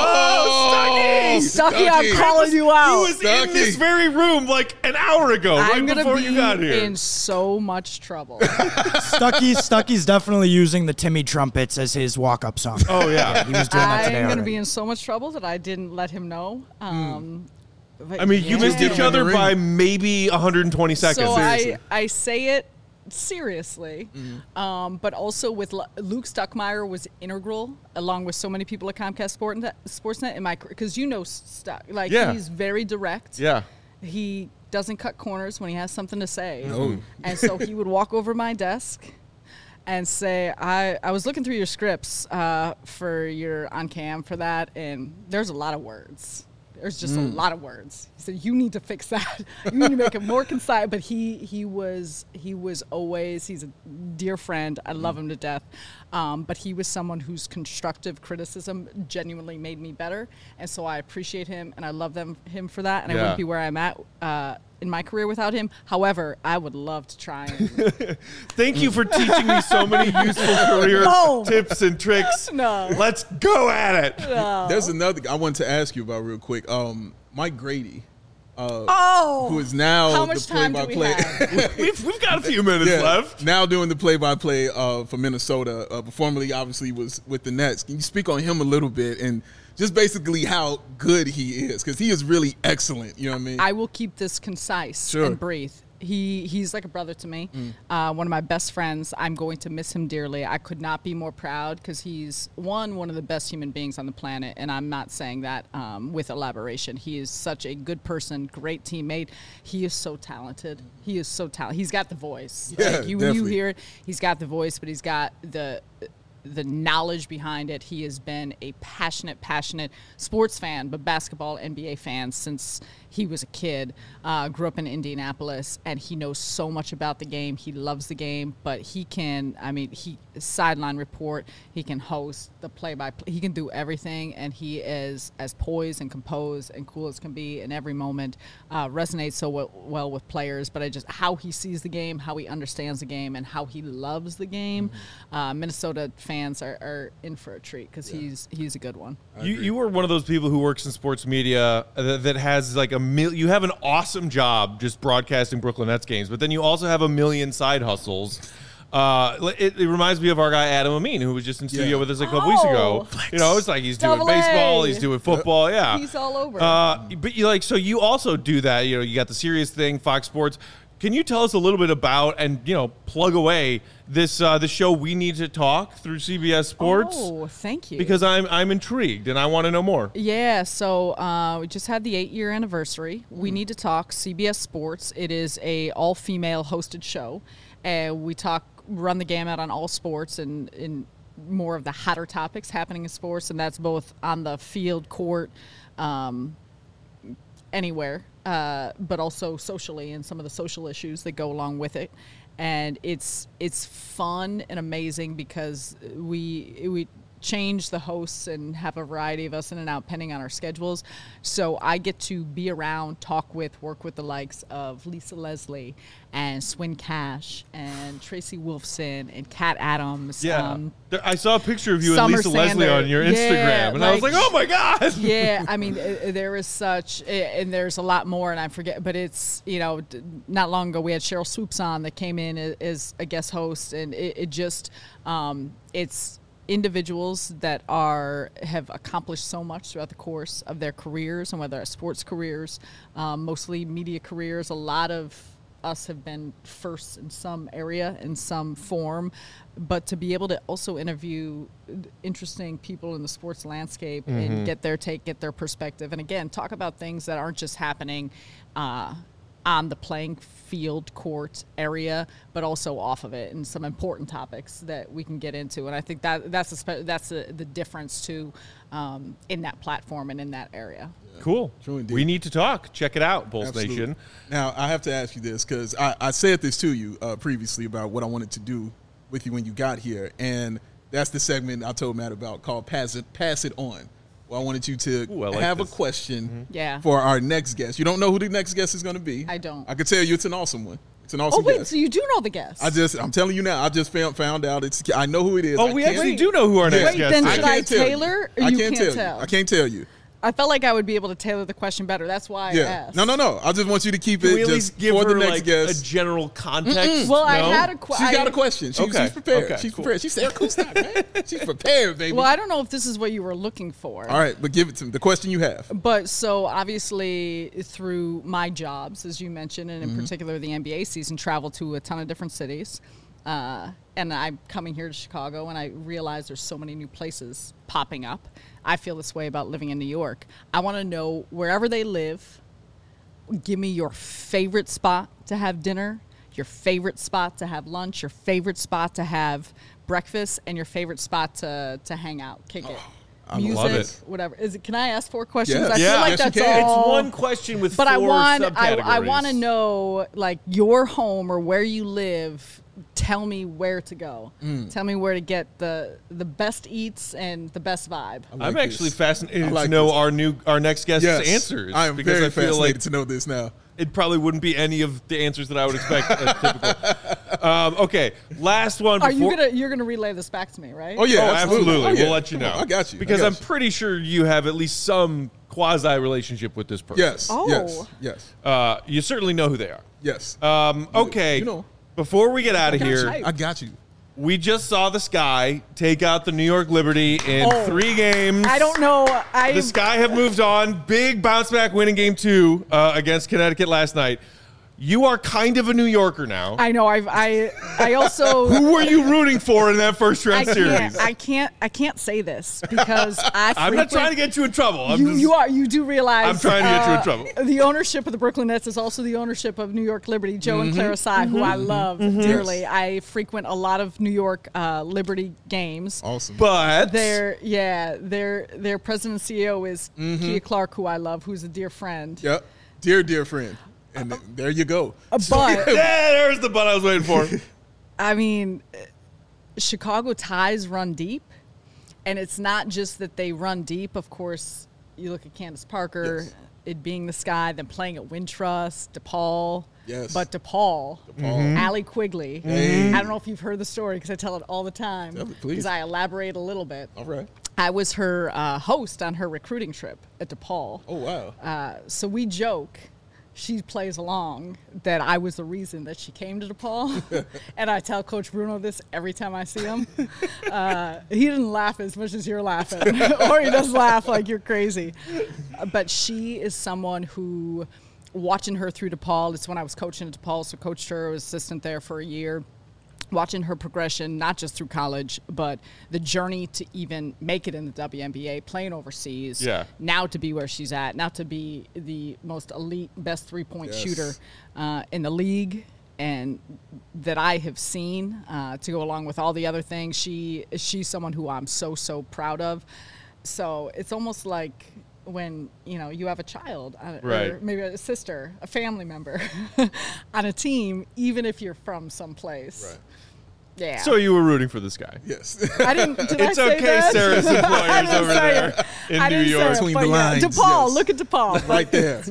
oh, Stucky, I'm calling you He out. was in Stucky. this very room like an hour ago, right I'm gonna before be you got here. in so much trouble. Stucky, Stucky's definitely using the Timmy trumpets as his walk-up song. Oh yeah. He was doing that today I'm gonna already. be in so much trouble that I didn't let him know. Um, but I mean, you yeah. missed Get each him in the other ring. by maybe one hundred twenty seconds. So Seriously. I, I say it seriously, Mm-hmm. um, but also with Lu- Luke Stuckmeyer was integral, along with so many people at Comcast Sportsnet, Sportsnet in my because you know Stuck, like Yeah. he's very direct. yeah. He doesn't cut corners when he has something to say. No. And so he would walk over my desk and say, I, I was looking through your scripts uh, for your on cam for that, and there's a lot of words. There's just a lot of words. He said, you need to fix that. You need to make it more concise. But he he was he was always, he's a dear friend. I love him to death. Um, but he was someone whose constructive criticism genuinely made me better. And so I appreciate him and I love them him for that. And I Yeah. wouldn't be where I'm at uh, in my career without him. However, I would love to try and Thank you for teaching me so many useful career No. tips and tricks. No. Let's go at it. There's another I wanted to ask you about real quick. Um, Mike Grady, uh, Oh, who is now how the much time do we play-by-play. have? We've, we've got a few minutes Yeah, left. now doing the play-by-play uh, for Minnesota. Uh, but formerly, obviously, was with the Nets. Can you speak on him a little bit and just basically how good he is? Because he is really excellent. You know what I mean? I will keep this concise Sure. and brief. He he's like a brother to me, Mm. uh, one of my best friends. I'm going to miss him dearly. I could not be more proud because he's one one of the best human beings on the planet, and I'm not saying that um, with elaboration. He is such a good person, great teammate. He is so talented. He is so talented. He's got the voice. Yeah, like you, when you definitely. hear it, he's got the voice, but he's got the the knowledge behind it. He has been a passionate, passionate sports fan, but basketball, N B A fan since he was a kid. Uh, grew up in Indianapolis, and he knows so much about the game. He loves the game, but he can, I mean, he sideline report, he can host the play-by-play, he can do everything, and he is as poised and composed and cool as can be in every moment. Uh, resonates so w- well with players, but I just, how he sees the game, how he understands the game, and how he loves the game. Uh, Minnesota fans are, are in for a treat because he's he's a good one. You, you were one of those people who works in sports media that, that has like a mil- you have an awesome job just broadcasting Brooklyn Nets games, but then you also have a million side hustles. Uh, it, it reminds me of our guy Adam Amin, who was just in studio Yeah. with us a couple weeks ago. Oh. You know, it's like he's doing Double A. baseball, he's doing football, yeah. He's all over. Uh, but you like so you also do that. You know, you got the serious thing, Fox Sports. Can you tell us a little bit about and you know plug away this uh, the show We Need to Talk through C B S Sports? Oh, thank you. Because I'm I'm intrigued and I want to know more. Yeah, so uh, we just had the eight-year anniversary. We Need to Talk, C B S Sports. It is a all-female hosted show, and we talk, run the gamut on all sports and in more of the hotter topics happening in sports, and that's both on the field, court, um, anywhere, uh, but also socially and some of the social issues that go along with it. And it's it's fun and amazing because we we change the hosts and have a variety of us in and out depending on our schedules. So I get to be around, talk with, work with the likes of Lisa Leslie and Swin Cash and Tracy Wolfson and Kat Adams. Yeah, Um, There- I saw a picture of you and Summer Lisa Leslie Sander. on your Instagram, Yeah, and I was like- like, "Oh my god!" yeah, I mean, uh, there is such, uh, and there's a lot more, and I forget, but it's, you know, d- not long ago we had Cheryl Swoops on that came in as, as a guest host, and it, it just, um, it's individuals that are, have accomplished so much throughout the course of their careers, and whether it's sports careers, um, mostly media careers, a lot of us have been first in some area, in some form, but to be able to also interview interesting people in the sports landscape and get their take, get their perspective, and again, talk about things that aren't just happening uh, on the playing field, court area, but also off of it, and some important topics that we can get into. And I think that that's a spe- that's a, the difference too um, in that platform and in that area. Cool. True indeed. We Need to Talk. Check it out, Bulls Absolutely. Nation. Now, I have to ask you this because I, I said this to you uh, previously about what I wanted to do with you when you got here, and that's the segment I told Matt about called Pass It, Pass It On. Well, I wanted you to Ooh, I like have this. a question Yeah. for our next guest. You don't know who the next guest is going to be. I don't. I can tell you it's an awesome one. It's an Oh awesome wait, guest. so you do know the guest? I just, I'm telling you now, I just found, found out. It's, I know who it is. Oh, I we can't- actually do know who our next Wait, guest then is. should I can't tell you. tailor, or I you can't can't tell, tell? you. I can't tell you. I felt like I would be able to tailor the question better. That's why I Yeah. asked. No, no, no. I just want you to keep Can it we at just least give for her the next like guest. a general context? Well, I No? had a question. She's got a question. She, Okay. She's prepared. Okay, she's cool. prepared. She's Sarah Kustak, man. She's prepared, baby. Well, I don't know if this is what you were looking for. All right, but give it to me. The question you have. But so obviously through my jobs, as you mentioned, and in Mm-hmm. particular the N B A season, travel to a ton of different cities. Uh, and I'm coming here to Chicago, and I realize there's so many new places popping up. I feel this way about living in New York. I want to know, wherever they live, give me your favorite spot to have dinner, your favorite spot to have lunch, your favorite spot to have breakfast, and your favorite spot to, to hang out, kick it. I Music, love it. whatever. Is it? Can I ask four questions? Yes. I Yeah. feel like Yes, you that's can. all. It's one question with But four I want, I, subcategories. I want to know, like, your home or where you live. Tell me where to go. Mm. Tell me where to get the the best eats and the best vibe. I I'm like actually this. fascinated I like to know this. our new our next guest's Yes. answers. I am because very I feel fascinated like to know this now. it probably wouldn't be any of the answers that I would expect. As typical. Um, okay, last one. Are before- you gonna you're gonna relay this back to me, right? Oh yeah, Oh, absolutely. Oh, yeah. We'll let you Come know. on, I got you. I Because got I'm you. pretty sure you have at least some quasi relationship with this person. Yes. Oh. Yes. Yes. Uh, you certainly know who they are. Yes. Um, okay. you know. Before we get out of Got here, you. I got you. we just saw the Sky take out the New York Liberty in Oh. three games. I don't know. I The Sky have moved on. Big bounce back win in game two uh, against Connecticut last night. You are kind of a New Yorker now. I know. I've I I also. Who were you rooting for in that first I round can't, series? I can't. I can't say this because I. I'm not frequent- trying to get you in trouble. I'm You, just, you are. You do realize. I'm trying to get you in uh, trouble. The ownership of the Brooklyn Nets is also the ownership of New York Liberty. Joe Mm-hmm. and Clara Tsai, who I love dearly. I frequent a lot of New York uh, Liberty games. Awesome. But Their yeah, their their president and C E O is Kia Clark, who I love, who's a dear friend. Yep. Dear, dear friend. And th- there you go. Uh, But yeah, there's the button I was waiting for. I mean, Chicago ties run deep, and it's not just that they run deep. Of course, you look at Candace Parker, Yes. it being the Sky, then playing at Wintrust, DePaul. Yes. But DePaul, DePaul. Allie Quigley. Hey. I don't know if you've heard the story because I tell it all the time. Tell it, please. Because I elaborate a little bit. All right. I was her uh, host on her recruiting trip at DePaul. Oh wow. Uh, so we joke, she plays along, that I was the reason that she came to DePaul. And I tell Coach Bruno this every time I see him. Uh, he didn't laugh as much as you're laughing, or he does laugh like you're crazy. Uh, But she is someone who, watching her through DePaul, it's when I was coaching at DePaul, so coached her, was assistant there for a year. Watching her progression, not just through college, but the journey to even make it in the W N B A, playing overseas, Yeah. now to be where she's at, now to be the most elite, best three-point Yes. shooter uh, in the league, and that I have seen uh, to go along with all the other things. She she's someone who I'm so so proud of. So it's almost like when you know you have a child, uh, Right. or maybe a sister, a family member on a team, even if you're from someplace. Right. Yeah. So you were rooting for this guy. Yes. I didn't. Did It's I say okay, that? Sarah's I employers didn't over say there it. in I New didn't say York. it, Between but the yeah, lines, DePaul, yes. look at DePaul. Right there.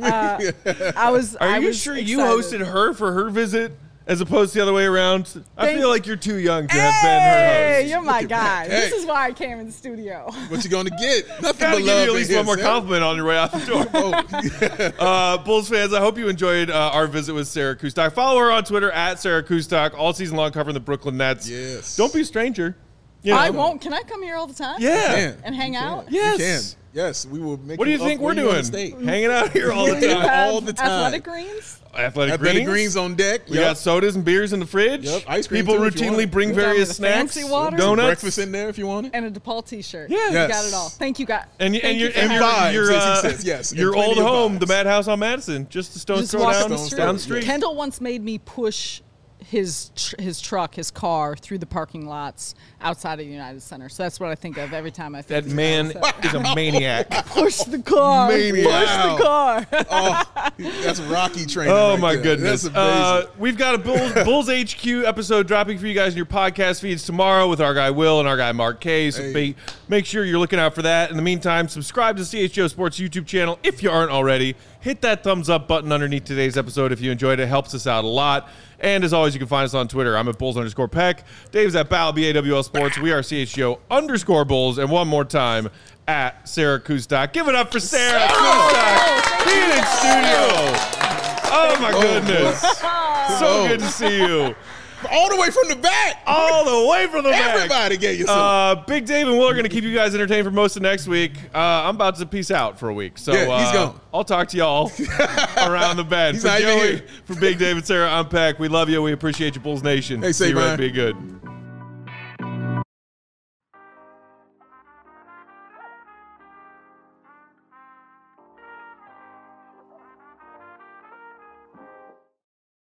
I was. Are I you was sure you excited. hosted her for her visit as opposed to the other way around? I Thank- feel like you're too young to have been her Hey, host. you're my Look guy. at that. This Hey. is why I came in the studio. What you gonna get? Nothing Gotta but give love you at in least here, one more Sarah. compliment on your way out the door. Oh, Uh, Bulls fans, I hope you enjoyed uh, our visit with Sarah Kustok. Follow her on Twitter at Sarah Kustok, all season long covering the Brooklyn Nets. Yes. Don't be a stranger. You know. I won't. Can I come here all the time? Yeah. can. And hang You can. out? You Yes. can. Yes, we will make What do you up think we're where you wanna doing? stay. Hanging out here all the Do you time. have all the time. Athletic greens? Athletic, Athletic greens. greens on deck. We Yep. got sodas and beers in the fridge. Yep, ice cream People too, if you want routinely it. bring You got me various the snacks, fancy water? donuts. breakfast in there if you want it. And a DePaul T-shirt. Yeah. You Yes. got it all. Thank you, guys. And, you, Thank and you your for and your, having me. vibes, your, as he uh, says, yes, and your plenty old of home, the vibes. Madhouse on Madison, just a stone's Just throw walk down, the street. down the street. Kendall once made me push his tr- his truck, his car, through the parking lots outside of the United Center. So that's what I think of every time I think That of man United Center. is a maniac. Push the car. Maniac. Push Wow. the car. Oh, that's Rocky training. Oh right my there. goodness! That's amazing. Uh, we've got a Bulls, Bulls H Q episode dropping for you guys in your podcast feeds tomorrow with our guy Will and our guy Mark K. So Hey. be, make sure you're looking out for that. In the meantime, subscribe to C H G O Sports YouTube channel if you aren't already. Hit that thumbs up button underneath today's episode if you enjoyed it. It helps us out a lot. And as always, you can find us on Twitter. I'm at Bulls underscore Peck. Dave's at Bal, B A W L Sports. We are C H G O underscore Bulls. And one more time, at Sarah Kustok. Give it up for Sarah Kustok being in studio. Oh, my goodness. So good to see you. All the way from the back. All the way from the back. Everybody get yourself. Uh, Big Dave and Will are going to keep you guys entertained for most of next week. Uh, I'm about to peace out for a week. So Yeah, he's uh, gone. I'll talk to y'all around the bend. He's For not even Joey, here. for Big Dave and Sarah, I'm Peck. We love you. We appreciate you, Bulls Nation. Hey, See you Savon. right. Be good.